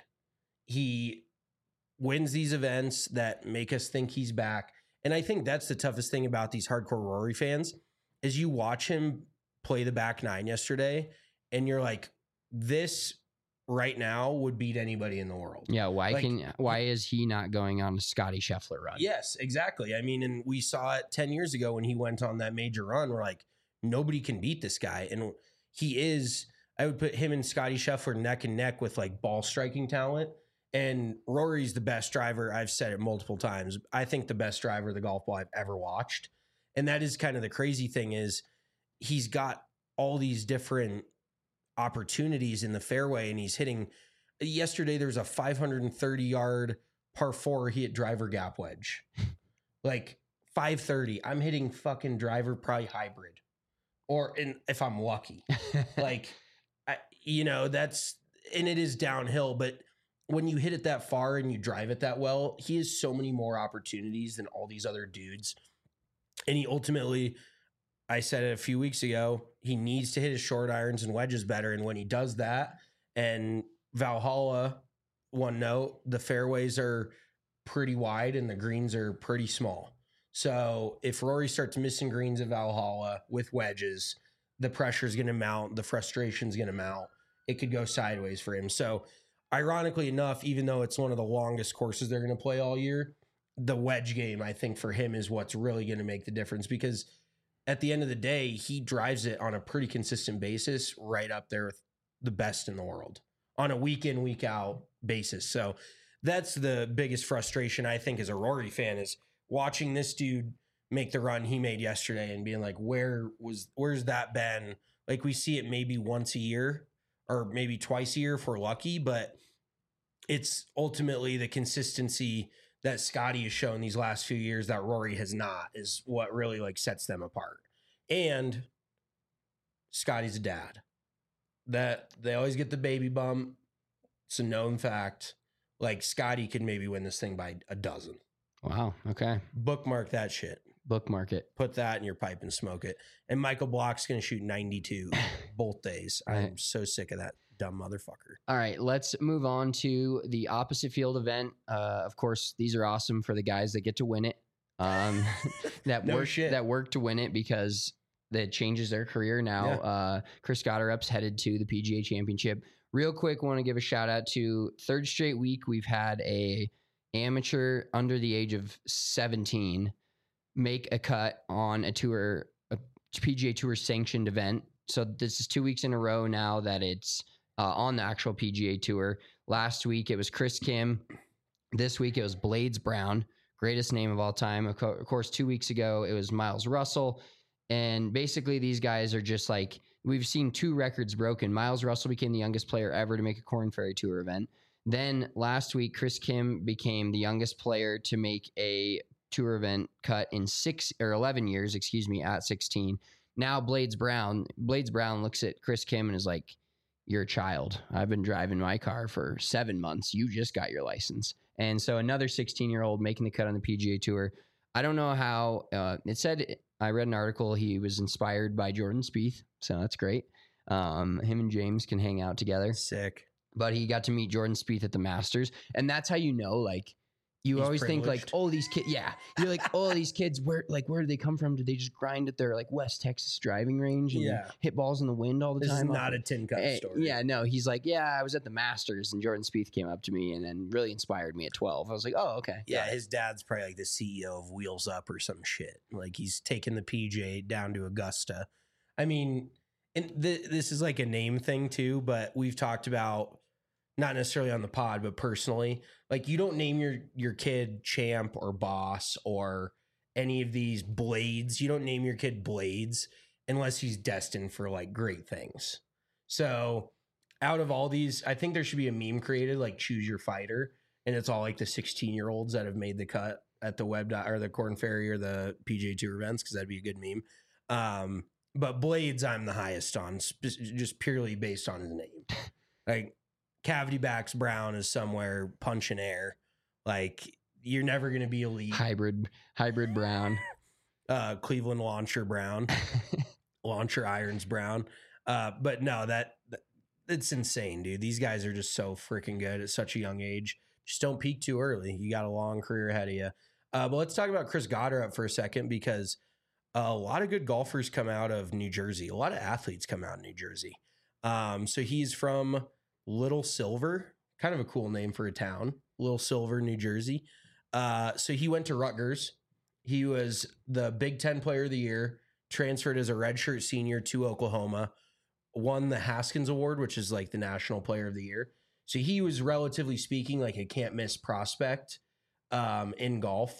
He wins these events that make us think he's back. And I think that's the toughest thing about these hardcore Rory fans is you watch him play the back nine yesterday and you're like, this right now would beat anybody in the world. Yeah, why Like, can why is he not going on a Scotty Scheffler run? Yes, exactly. I mean, and we saw it ten years ago when he went on that major run. We're like, nobody can beat this guy. And he is, I would put him and Scotty Scheffler neck and neck with like ball striking talent. And Rory's the best driver. I've said it multiple times. I think the best driver of the golf ball I've ever watched. And that is kind of the crazy thing is he's got all these different opportunities in the fairway and he's hitting. Yesterday, there was a five hundred thirty yard par four. He hit driver gap wedge. Like five thirty. I'm hitting fucking driver probably hybrid. Or in, if I'm lucky. Like, I, you know, that's, and it is downhill, but when you hit it that far and you drive it that well, he has so many more opportunities than all these other dudes. And he ultimately, I said it a few weeks ago, he needs to hit his short irons and wedges better. And when he does that, and Valhalla, one note, the fairways are pretty wide and the greens are pretty small. So if Rory starts missing greens at Valhalla with wedges, the pressure is going to mount, the frustration is going to mount. It could go sideways for him. So ironically enough, even though it's one of the longest courses they're going to play all year, the wedge game, I think for him is what's really going to make the difference because at the end of the day, he drives it on a pretty consistent basis right up there with the best in the world on a week in, week out basis. So that's the biggest frustration I think as a Rory fan is watching this dude make the run he made yesterday and being like, where was, where's that been? Like we see it maybe once a year or maybe twice a year if we're lucky, but it's ultimately the consistency that Scotty has shown these last few years that Rory has not is what really like sets them apart. And Scotty's a dad. That they always get the baby bump. It's a known fact. Like Scotty could maybe win this thing by a dozen. Wow. Okay. Bookmark that shit. Bookmark it. Put that in your pipe and smoke it. And Michael Block's going to shoot ninety-two both days. I'm Right. so sick of that dumb motherfucker. All right, let's move on to the opposite field event. Uh, of course, these are awesome for the guys that get to win it. Um, that No work shit. that work to win it because that changes their career now. Yeah. Uh, Chris Gotterup's headed to the P G A Championship. Real quick, want to give a shout out to third straight week we've had a amateur under the age of seventeen make a cut on a tour, a P G A Tour sanctioned event. So this is two weeks in a row now that it's uh, on the actual P G A Tour. Last week it was Chris Kim. This week it was Blades Brown, greatest name of all time. Of, co- of course, two weeks ago it was Miles Russell. And basically these guys are just like, we've seen two records broken. Miles Russell became the youngest player ever to make a Korn Ferry Tour event. Then last week, Chris Kim became the youngest player to make a tour event cut in six or eleven years, excuse me, at sixteen. Now Blades Brown, Blades Brown looks at Chris Kim and is like, you're a child. I've been driving my car for seven months. You just got your license. And so another sixteen year old making the cut on the P G A Tour. I don't know how uh, it said, I read an article. He was inspired by Jordan Spieth. So that's great. Um, him and James can hang out together. Sick. But he got to meet Jordan Spieth at the Masters. And that's how you know, like, you He's always think like, privileged. oh, these kids, yeah. You're like, oh, these kids, where like where do they come from? Did they just grind at their like West Texas driving range and Yeah. hit balls in the wind all the This is time? not a tin cup Eh, story. Yeah, no, he's like, yeah, I was at the Masters and Jordan Spieth came up to me and then really inspired me at twelve. I was like, oh, okay. Yeah, his dad's probably like the C E O of Wheels Up or some shit. Like he's taking the P G A down to Augusta. I mean, and th- this is like a name thing too, but we've talked about not necessarily on the pod, but personally, like you don't name your your kid Champ or Boss or any of these Blades. You don't name your kid Blades unless he's destined for like great things. So out of all these, I think there should be a meme created like choose your fighter. And it's all like the sixteen year olds that have made the cut at the web dot, or the Korn Ferry or the P G A Tour events. Cause that'd be a good meme. Um, but Blades, I'm the highest on sp- just purely based on his name. Like Cavity Backs Brown is somewhere punching air. Like you're never going to be elite. Hybrid, hybrid Brown. Uh, Cleveland Launcher Brown, Launcher Irons Brown. Uh, but no, that, that it's insane, dude. These guys are just so freaking good at such a young age. Just don't peak too early. You got a long career ahead of you. Uh, but let's talk about Chris Gotterup for a second, because a lot of good golfers come out of New Jersey. A lot of athletes come out of New Jersey. Um, so he's from Little Silver, kind of a cool name for a town, Little Silver, New Jersey. Uh, so he went to Rutgers. He was the Big Ten Player of the Year, transferred as a redshirt senior to Oklahoma, won the Haskins Award, which is like the National Player of the Year. So he was, relatively speaking, like a can't miss prospect um, in golf.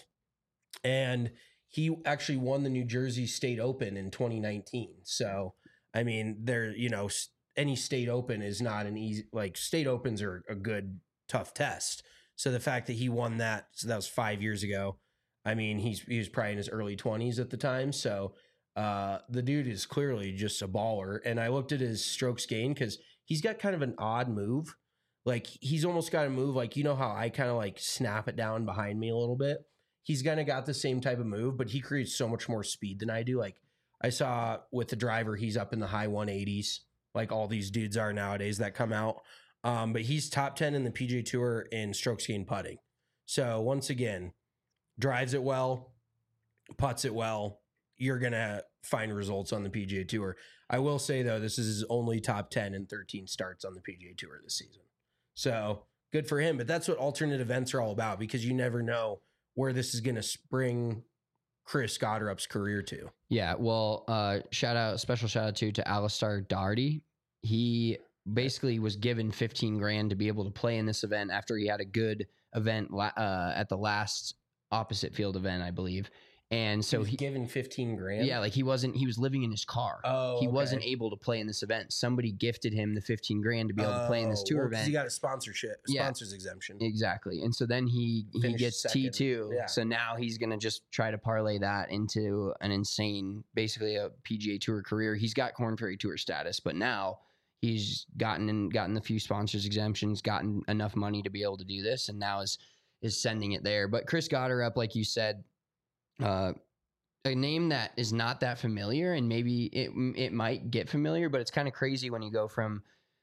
And he actually won the New Jersey State Open in twenty nineteen. So, I mean, there, you know, any state open is not an easy, like state opens are a good, tough test. So the fact that he won that, so that was five years ago. I mean, he's, he was probably in his early twenties at the time. So uh, the dude is clearly just a baller. And I looked at his strokes gained because he's got kind of an odd move. Like he's almost got a move, like, you know how I kind of like snap it down behind me a little bit. He's kind of got the same type of move, but he creates so much more speed than I do. Like I saw with the driver, he's up in the high one eighties, like all these dudes are nowadays that come out. Um, but he's top ten in the P G A Tour in strokes gained putting. So once again, drives it well, putts it well. You're going to find results on the P G A Tour. I will say, though, this is his only top ten and thirteen starts on the P G A Tour this season. So good for him. But that's what alternate events are all about, because you never know where this is going to spring Chris Gotterup's career to. Yeah, well, uh, shout out, special shout out to to Alistair Doherty. He basically was given fifteen grand to be able to play in this event after he had a good event uh, at the last opposite field event, I believe. And so he was he given fifteen grand. Yeah, like he wasn't, he was living in his car. Oh, he okay. wasn't able to play in this event. Somebody gifted him the fifteen grand to be able to play in this tour oh, well, 'cause event. He got a sponsorship, Yeah. sponsors exemption. Exactly. And so then he, he Finished gets second. T two. Yeah. So now he's going to just try to parlay that into an insane, basically a P G A Tour career. He's got Korn Ferry Tour status, but now he's gotten in, gotten the few sponsors exemptions, gotten enough money to be able to do this, and now is is sending it there. But Chris Gotterup, like you said, uh, a name that is not that familiar, and maybe it it might get familiar, but it's kind of crazy when you go from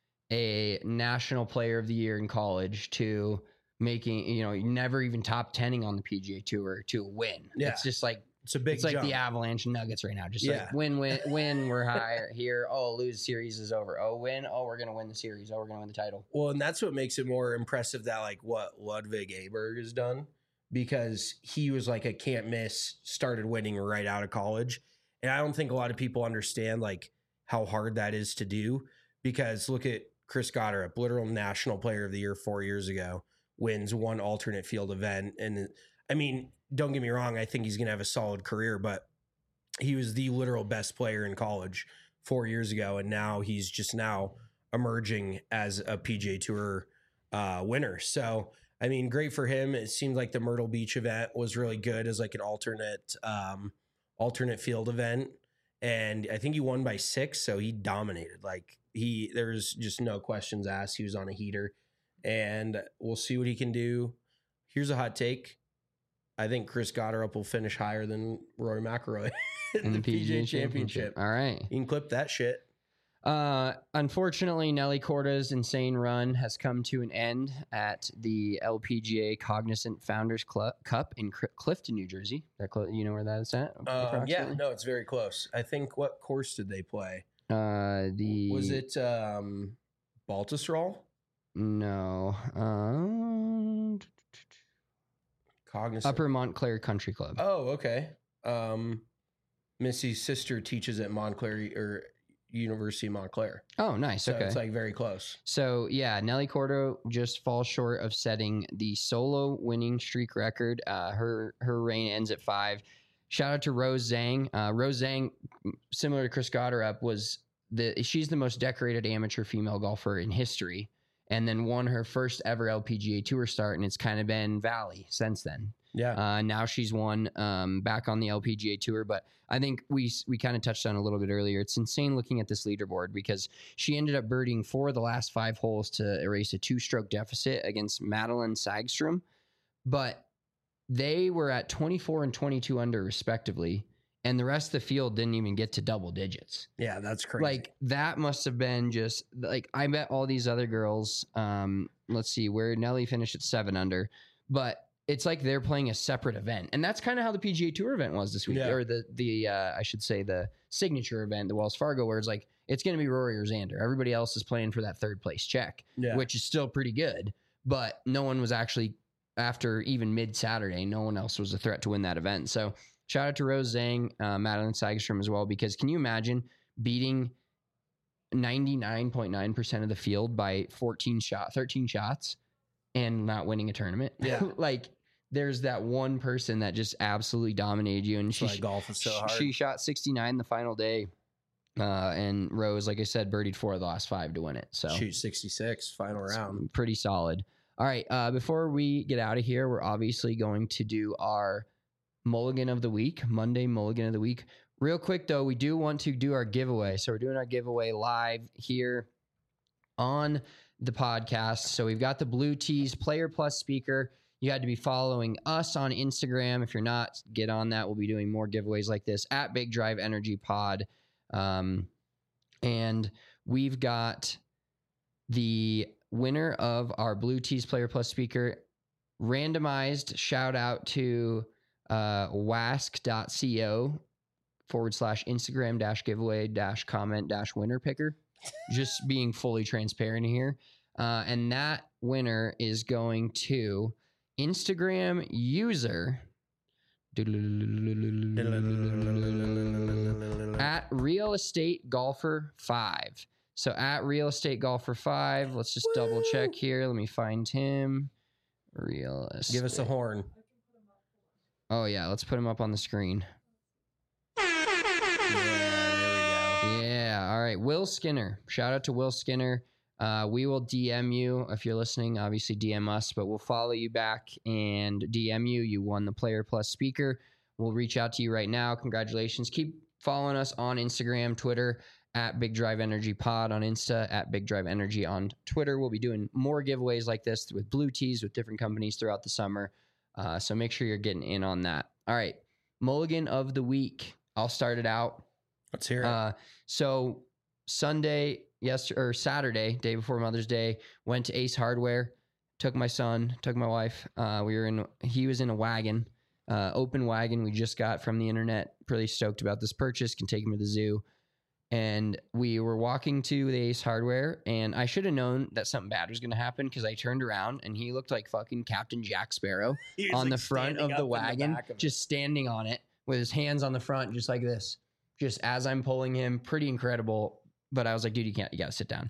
a national player of the year in college to making, you know, never even top tenning on the P G A Tour to a win. Yeah. It's just like, It's a big it's like jump. the Avalanche Nuggets right now. Just Yeah. like win, win, win. We're higher here. Oh, lose, series is over. Oh, win. Oh, we're gonna win the series. Oh, we're gonna win the title. Well, and that's what makes it more impressive that like what Ludwig Aberg has done, because he was like a can't miss, started winning right out of college. And I don't think a lot of people understand like how hard that is to do, because look at Chris Gotterup, literal national player of the year four years ago, wins one alternate field event. And I mean, don't get me wrong, I think he's going to have a solid career, but he was the literal best player in college four years ago. And now he's just now emerging as a P G A Tour uh, winner. So, I mean, great for him. It seemed like the Myrtle Beach event was really good as like an alternate, um, alternate field event. And I think he won by six. So he dominated. Like he, there was just no questions asked. He was on a heater, and we'll see what he can do. Here's a hot take. I think Chris Gotterup will finish higher than Rory McIlroy in, in the P G A Championship. All right. You can clip that shit. Uh, unfortunately, Nelly Corda's insane run has come to an end at the L P G A Cognizant Founders Club Cup in C- Clifton, New Jersey. That cl- you know where that is at? Um, yeah, no, it's very close. I think, what course did they play? Uh, the Was it um, Baltusrol? No. Um, Cognizant. Upper Montclair Country Club. Oh, okay. Um, Missy's sister teaches at Montclair or University of Montclair. Oh, nice. So okay. it's like very close. So yeah, Nelly Cordo just falls short of setting the solo winning streak record. Uh, her her reign ends at five. Shout out to Rose Zhang. Uh, Rose Zhang, similar to Chris Gotterup, was the she's the most decorated amateur female golfer in history, and then won her first ever L P G A Tour start, and it's kind of been valley since then. Yeah. Uh, now she's won um, back on the L P G A Tour, but I think we we kind of touched on a little bit earlier. It's insane looking at this leaderboard because she ended up birdieing four of the last five holes to erase a two-stroke deficit against Madeline Sagstrom, but they were at twenty-four and twenty-two under respectively, and the rest of the field didn't even get to double digits. Yeah, that's crazy. Like that must have been just like I bet all these other girls. Um, let's see where Nelly finished at seven under, but it's like they're playing a separate event, and that's kind of how the P G A Tour event was this week, Yeah. or the the uh, I should say the signature event, the Wells Fargo, where it's like it's going to be Rory or Xander. Everybody else is playing for that third place check, Yeah. which is still pretty good. But no one was actually, after even mid-Saturday, no one else was a threat to win that event. So shout out to Rose Zhang, uh, Madeline Segerstrom as well, because can you imagine beating ninety-nine point nine percent of the field by fourteen shot, thirteen shots and not winning a tournament? Yeah. Like, there's that one person that just absolutely dominated you. And That's she, why golf is so she- hard. she shot sixty-nine the final day. Uh, and Rose, like I said, birdied four of the last five to win it. So Shoot sixty-six, final round. pretty solid. All right. Uh, before we get out of here, we're obviously going to do our mulligan of the week, Monday mulligan of the week. Real quick, though, we do want to do our giveaway. So we're doing our giveaway live here on the podcast. So we've got the Blue Tees Player Plus speaker. You had to be following us on Instagram. If you're not, get on that. We'll be doing more giveaways like this at Big Drive Energy Pod. Um, and we've got the winner of our Blue Tees Player Plus speaker randomized. Shout out to uh, wask.co forward slash Instagram dash giveaway dash comment dash winner picker. Just being fully transparent here. Uh, and that winner is going to Instagram user at Real Estate Golfer five. So at Real Estate Golfer five, let's just double check here. Let me find him. Real Estate. Give us a horn. Oh yeah, let's put him up on the screen. Yeah, there we go. Yeah, all right. Will Skinner. Shout out to Will Skinner. Uh, we will D M you if you're listening. Obviously, D M us, but we'll follow you back and D M you. You won the Player Plus speaker. We'll reach out to you right now. Congratulations. Keep following us on Instagram, Twitter, at Big Drive Energy Pod on Insta, at Big Drive Energy on Twitter. We'll be doing more giveaways like this with Blue Tees with different companies throughout the summer. Uh, so make sure you're getting in on that. All right. Mulligan of the week. I'll start it out. Let's hear it. Uh, so Sunday, yes, or Saturday, day before Mother's Day, went to Ace Hardware, took my son, took my wife. Uh, we were in, he was in a wagon, uh, open wagon we just got from the internet. Pretty stoked about this purchase. Can take him to the zoo. And we were walking to the Ace Hardware, and I should have known that something bad was going to happen because I turned around and he looked like fucking Captain Jack Sparrow He was, on like, the front standing of up the in the wagon, back of it. just standing on it with his hands on the front, just like this, just as I'm pulling him. Pretty incredible. But I was like, dude, you can't, you got to sit down.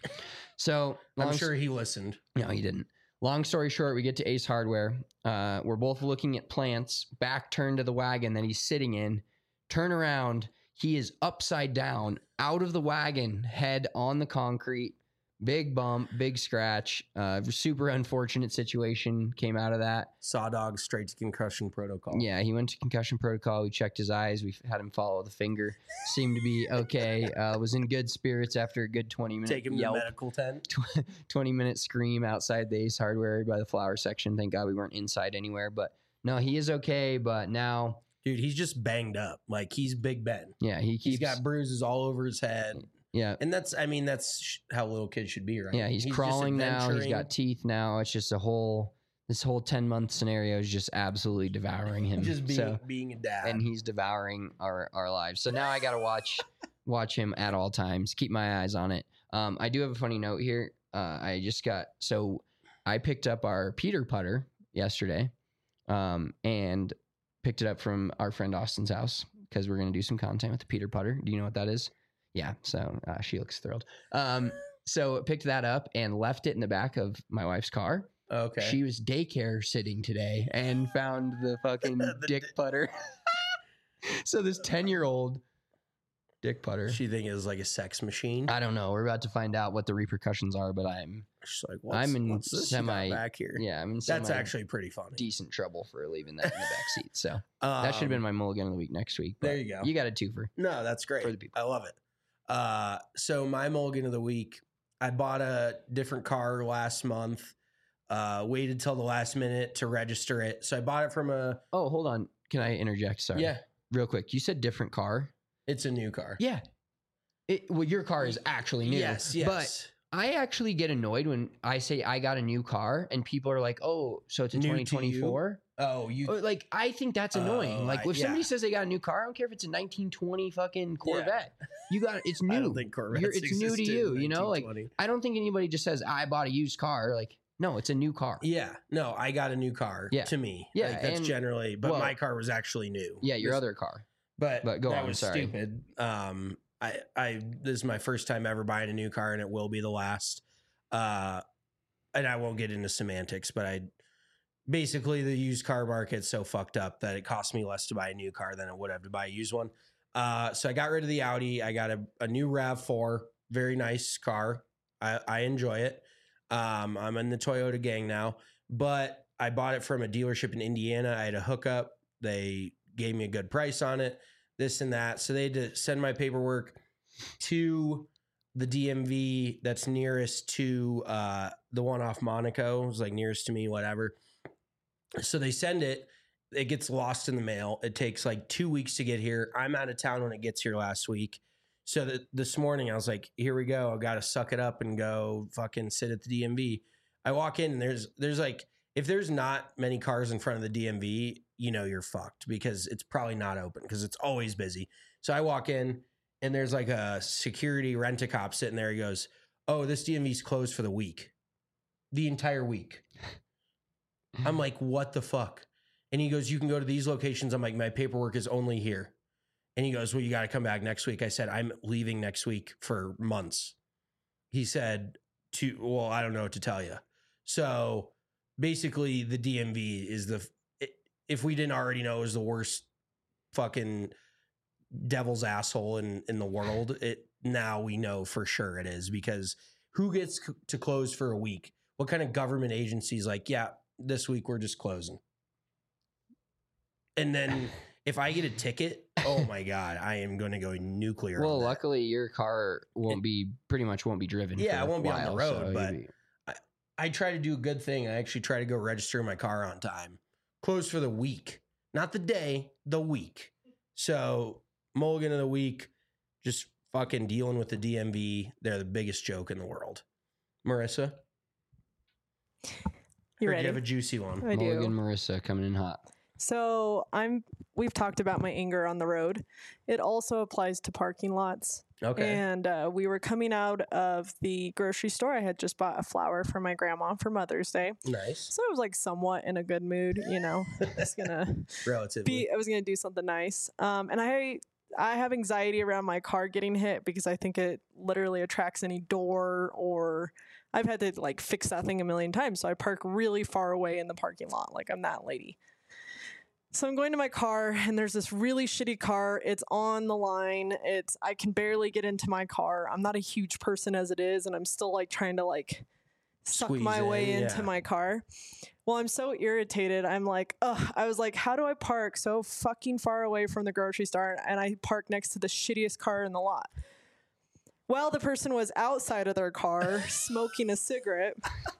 So I'm long sure he listened. no, he didn't. Long story short, we get to Ace Hardware. Uh, we're both looking at plants, back turned to the wagon that he's sitting in. Turn around. He is upside down, out of the wagon, head on the concrete. Big bump, big scratch. Uh, super unfortunate situation came out of that. Saw dog straight to concussion protocol. Yeah, he went to concussion protocol. We checked his eyes. We had him follow the finger. Seemed to be okay. Uh, was in good spirits after a good twenty minute Take him to the yelp. medical tent. twenty minute scream outside the Ace Hardware by the flower section. Thank God we weren't inside anywhere. But no, he is okay. But now, Dude, he's just banged up. Like, he's Big Ben. yeah, he keeps He's got bruises all over his head. yeah. And that's, I mean, that's sh- how little kids should be, right? Yeah, he's, just crawling now. He's adventuring. got teeth now. It's just a whole this whole ten month scenario is just absolutely devouring him. just being, so, being a dad. and he's devouring our our lives. So now I got to watch watch him at all times. Keep my eyes on it. Um, I do have a funny note here. Uh, I just got so I picked up our Peter putter yesterday, um, and picked it up from our friend Austin's house because we're gonna do some content with the Peter putter. Do you know what that is? Yeah. So uh, she looks thrilled. Um, so picked that up and left it in the back of my wife's car. okay. She was daycare sitting today and found the fucking The dick di- putter. So this ten year old dick putter. She think is like a sex machine. I don't know. We're about to find out what the repercussions are, but I'm She's like, what's, I'm in what's this you got semi- back here? yeah, I'm in That's semi- actually pretty funny. decent trouble for leaving that in the back seat. So Um, that should have been my mulligan of the week next week. there but you go. You got a twofer. No, that's great. For the people. I love it. Uh, so my mulligan of the week, I bought a different car last month. Uh, waited till the last minute to register it. So I bought it from a Oh, hold on. Can I interject? Sorry. yeah. Real quick. You said different car. It's a new car. Yeah. It, well, your car is actually new. Yes, yes. But I actually get annoyed when I say I got a new car and people are like, "Oh, so it's a New to twenty twenty-four?" Oh, you Or, like I think that's annoying. Oh, like I- if somebody yeah. says they got a new car, I don't care if it's a nineteen twenty fucking Corvette. You got it's new. I don't think Corvettes You're- it's new to existed you. in You know, like nineteen twenty. I don't think anybody just says I bought a used car. Like no, it's a new car. Yeah, no, I got a new car. Yeah. To me, Yeah, like, that's and- generally. But well- my car was actually new. Yeah, your This- other car. But, But go that on, was sorry. stupid. Um, I, I, this is my first time ever buying a new car, and it will be the last. Uh, and I won't get into semantics, but I, basically, the used car market's so fucked up that it costs me less to buy a new car than it would have to buy a used one. Uh, so I got rid of the Audi. I got a, a new RAV four, very nice car. I, I enjoy it. Um, I'm in the Toyota gang now, but I bought it from a dealership in Indiana. I had a hookup. They gave me a good price on it, this and that. So they had to send my paperwork to the D M V that's nearest to uh, the one off Monaco. It was like nearest to me, whatever. So they send it. It gets lost in the mail. It takes like two weeks to get here. I'm out of town when it gets here last week. So that this morning I was like, here we go. I got to suck it up and go fucking sit at the D M V. I walk in and there's, there's like, if there's not many cars in front of the D M V, you know, you're fucked because it's probably not open because it's always busy. So I walk in and there's like a security rent-a-cop sitting there. He goes, oh, this D M V's closed for the week, the entire week. I'm like, what the fuck? And he goes, you can go to these locations. I'm like, my paperwork is only here. And he goes, well, you got to come back next week. I said, I'm leaving next week for months. He said, to, well, I don't know what to tell you. So basically the D M V is the, if we didn't already know, is the worst fucking devil's asshole in, in the world. It now we know for sure it is, because who gets c- to close for a week? What kind of government agency's like, yeah, this week we're just closing. And then if I get a ticket, oh my God, I am going to go nuclear. Well, on that. luckily your car won't It- be pretty much won't be driven. Yeah, for I won't a be on the while, road, so but you'll be- I try to do a good thing. I actually try to go register my car on time. Closed for the week, not the day, the week. So mulligan of the week, just fucking dealing with the D M V. They're the biggest joke in the world. Marissa, You or ready? do you have a juicy one? I do. Mulligan Marissa coming in hot. So I'm. We've talked about my anger on the road. It also applies to parking lots. Okay. And uh, we were coming out of the grocery store. I had just bought a flower for my grandma for Mother's Day, Nice. so I was like somewhat in a good mood. You know, I was gonna Relatively. be. I was gonna do something nice. Um, and I. I have anxiety around my car getting hit because I think it literally attracts any door, or I've had to like fix that thing a million times. So I park really far away in the parking lot. Like I'm that lady. So I'm going to my car and there's this really shitty car. It's on the line. It's, I can barely get into my car. I'm not a huge person as it is. And I'm still like trying to like suck Squeeze my way in, into yeah. my car. Well, I'm so irritated. I'm like, ugh, I was like, how do I park so fucking far away from the grocery store? And I park next to the shittiest car in the lot. Well, the person was outside of their car smoking a cigarette.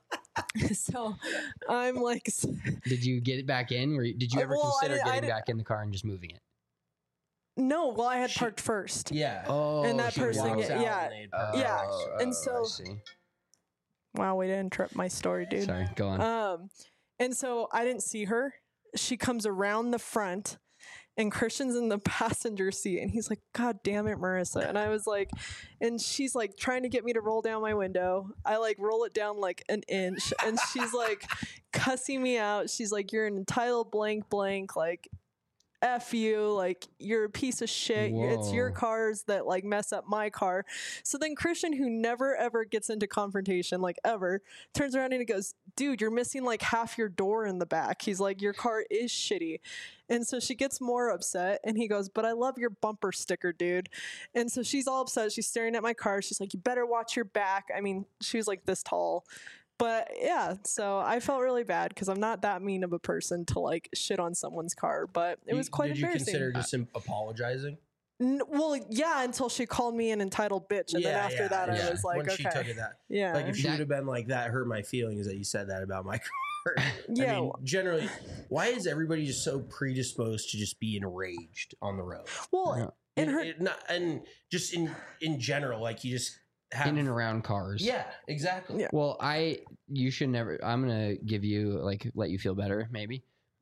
So I'm like, Did you get it back in? Were you, did you Uh, ever well, I consider didn't- I getting didn't- back in the car and just moving it? no, well, I had parked first. Yeah. Oh, And that she person walks get- out. yeah, and they'd park yeah. next to it. And I so- see. Wow, way to interrupt my story, dude. Sorry, go on. Um, and so I didn't see her. She comes around the front, and Christian's in the passenger seat, and he's like, "God damn it, Marissa!" And I was like, and she's like trying to get me to roll down my window. I like roll it down like an inch, and she's like cussing me out. She's like, "You're an entitled blank blank, like." F you, like you're a piece of shit. It's your Whoa. cars that like mess up my car. So then Christian, who never ever gets into confrontation, like ever, turns around and he goes, dude, you're missing like half your door in the back. He's like, your car is shitty. And so she gets more upset and he goes, but I love your bumper sticker, dude. And so she's all upset. She's staring at my car. She's like, you better watch your back. I mean, she was like this tall. But yeah, so I felt really bad because I'm not that mean of a person to like shit on someone's car, but it was You- quite Did you embarrassing. consider just im- apologizing? N- well, yeah, until she called me an entitled bitch, and then Yeah, after yeah, that, yeah. I was like, when okay, she took it that, yeah, like if she That- would have been like that, hurt my feelings that you said that about my car. Yeah. I mean, generally, why is everybody just so predisposed to just be enraged on the road? well, Yeah. and her, It- not, and just in in general, like you just have In and around cars. Yeah, exactly. Yeah. Well, I you should never. I'm gonna give you like let you feel better maybe,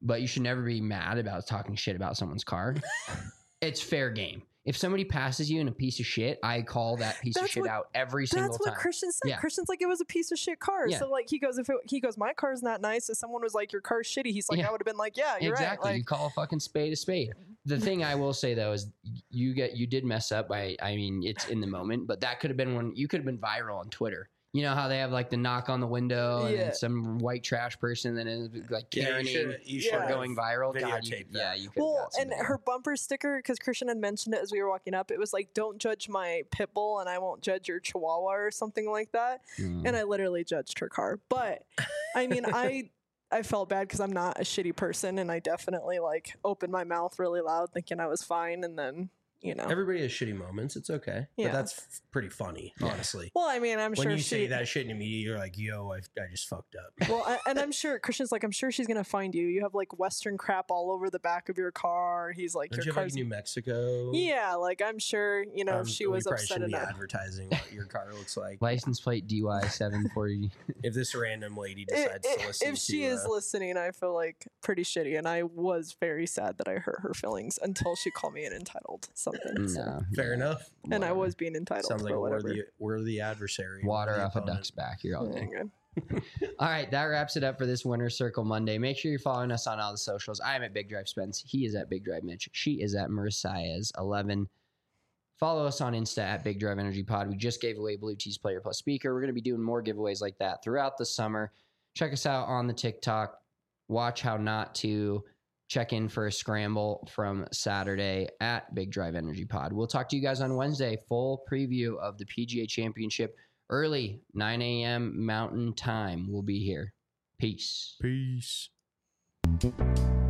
but you should never be mad about talking shit about someone's car. It's fair game. If somebody passes you in a piece of shit, I call that piece That's of shit what- out every single That's time. what Christian said. Yeah. Christian's like, it was a piece of shit car. Yeah. So like he goes, if it, he goes, my car's not nice. If someone was like, your car's shitty, he's like, Yeah. I would have been like, yeah, you're Exactly. right. You Like, call a fucking spade a spade. The thing I will say though is you get you did mess up by I mean it's in the moment, but that could have been when you could have been viral on Twitter. You know how they have like the knock on the window and Yeah. then some white trash person then is like Yeah, you Karening should- you or should going viral. God, you, videotape that. yeah, you could. well, and her bumper sticker, because Christian had mentioned it as we were walking up, it was like, don't judge my pit bull and I won't judge your chihuahua or something like that. Mm. And I literally judged her car. But I mean, I I felt bad because I'm not a shitty person, and I definitely like opened my mouth really loud thinking I was fine, and then you know. Everybody has shitty moments. It's okay. Yeah. But that's f- pretty funny, honestly. Well, I mean, I'm when sure you she, say that shit to me, you're like, yo, I, I just fucked up. Well, I, and I'm sure Christian's like, I'm sure she's gonna find you. You have like Western crap all over the back of your car. He's like, Don't your you have like car's New Mexico? yeah. Like I'm sure you know Um, if she we was probably upset shouldn't be enough. advertising what your car looks like. License plate D Y seven forty. If this random lady I- decides I- to listen if she to, is uh, listening, I feel like pretty shitty, and I was very sad that I hurt her feelings until she called me an entitled something. so- No, fair enough. And I was being entitled. Sounds like but a whatever. worthy, worthy adversary. water worthy off a opponent. duck's back. You're all Yeah, good. good. All right, that wraps it up for this Winter Circle Monday. Make sure you're following us on all the socials. I am at Big Drive Spence. He is at Big Drive Mitch. She is at Mercias eleven. Follow us on Insta at Big Drive Energy Pod. We just gave away Blue Tees Player Plus Speaker. We're going to be doing more giveaways like that throughout the summer. Check us out on the TikTok. Watch How Not To. Check in for a scramble from Saturday at Big Drive Energy Pod. We'll talk to you guys on Wednesday. Full preview of the P G A Championship early, nine a.m. Mountain Time. We'll be here. Peace. Peace.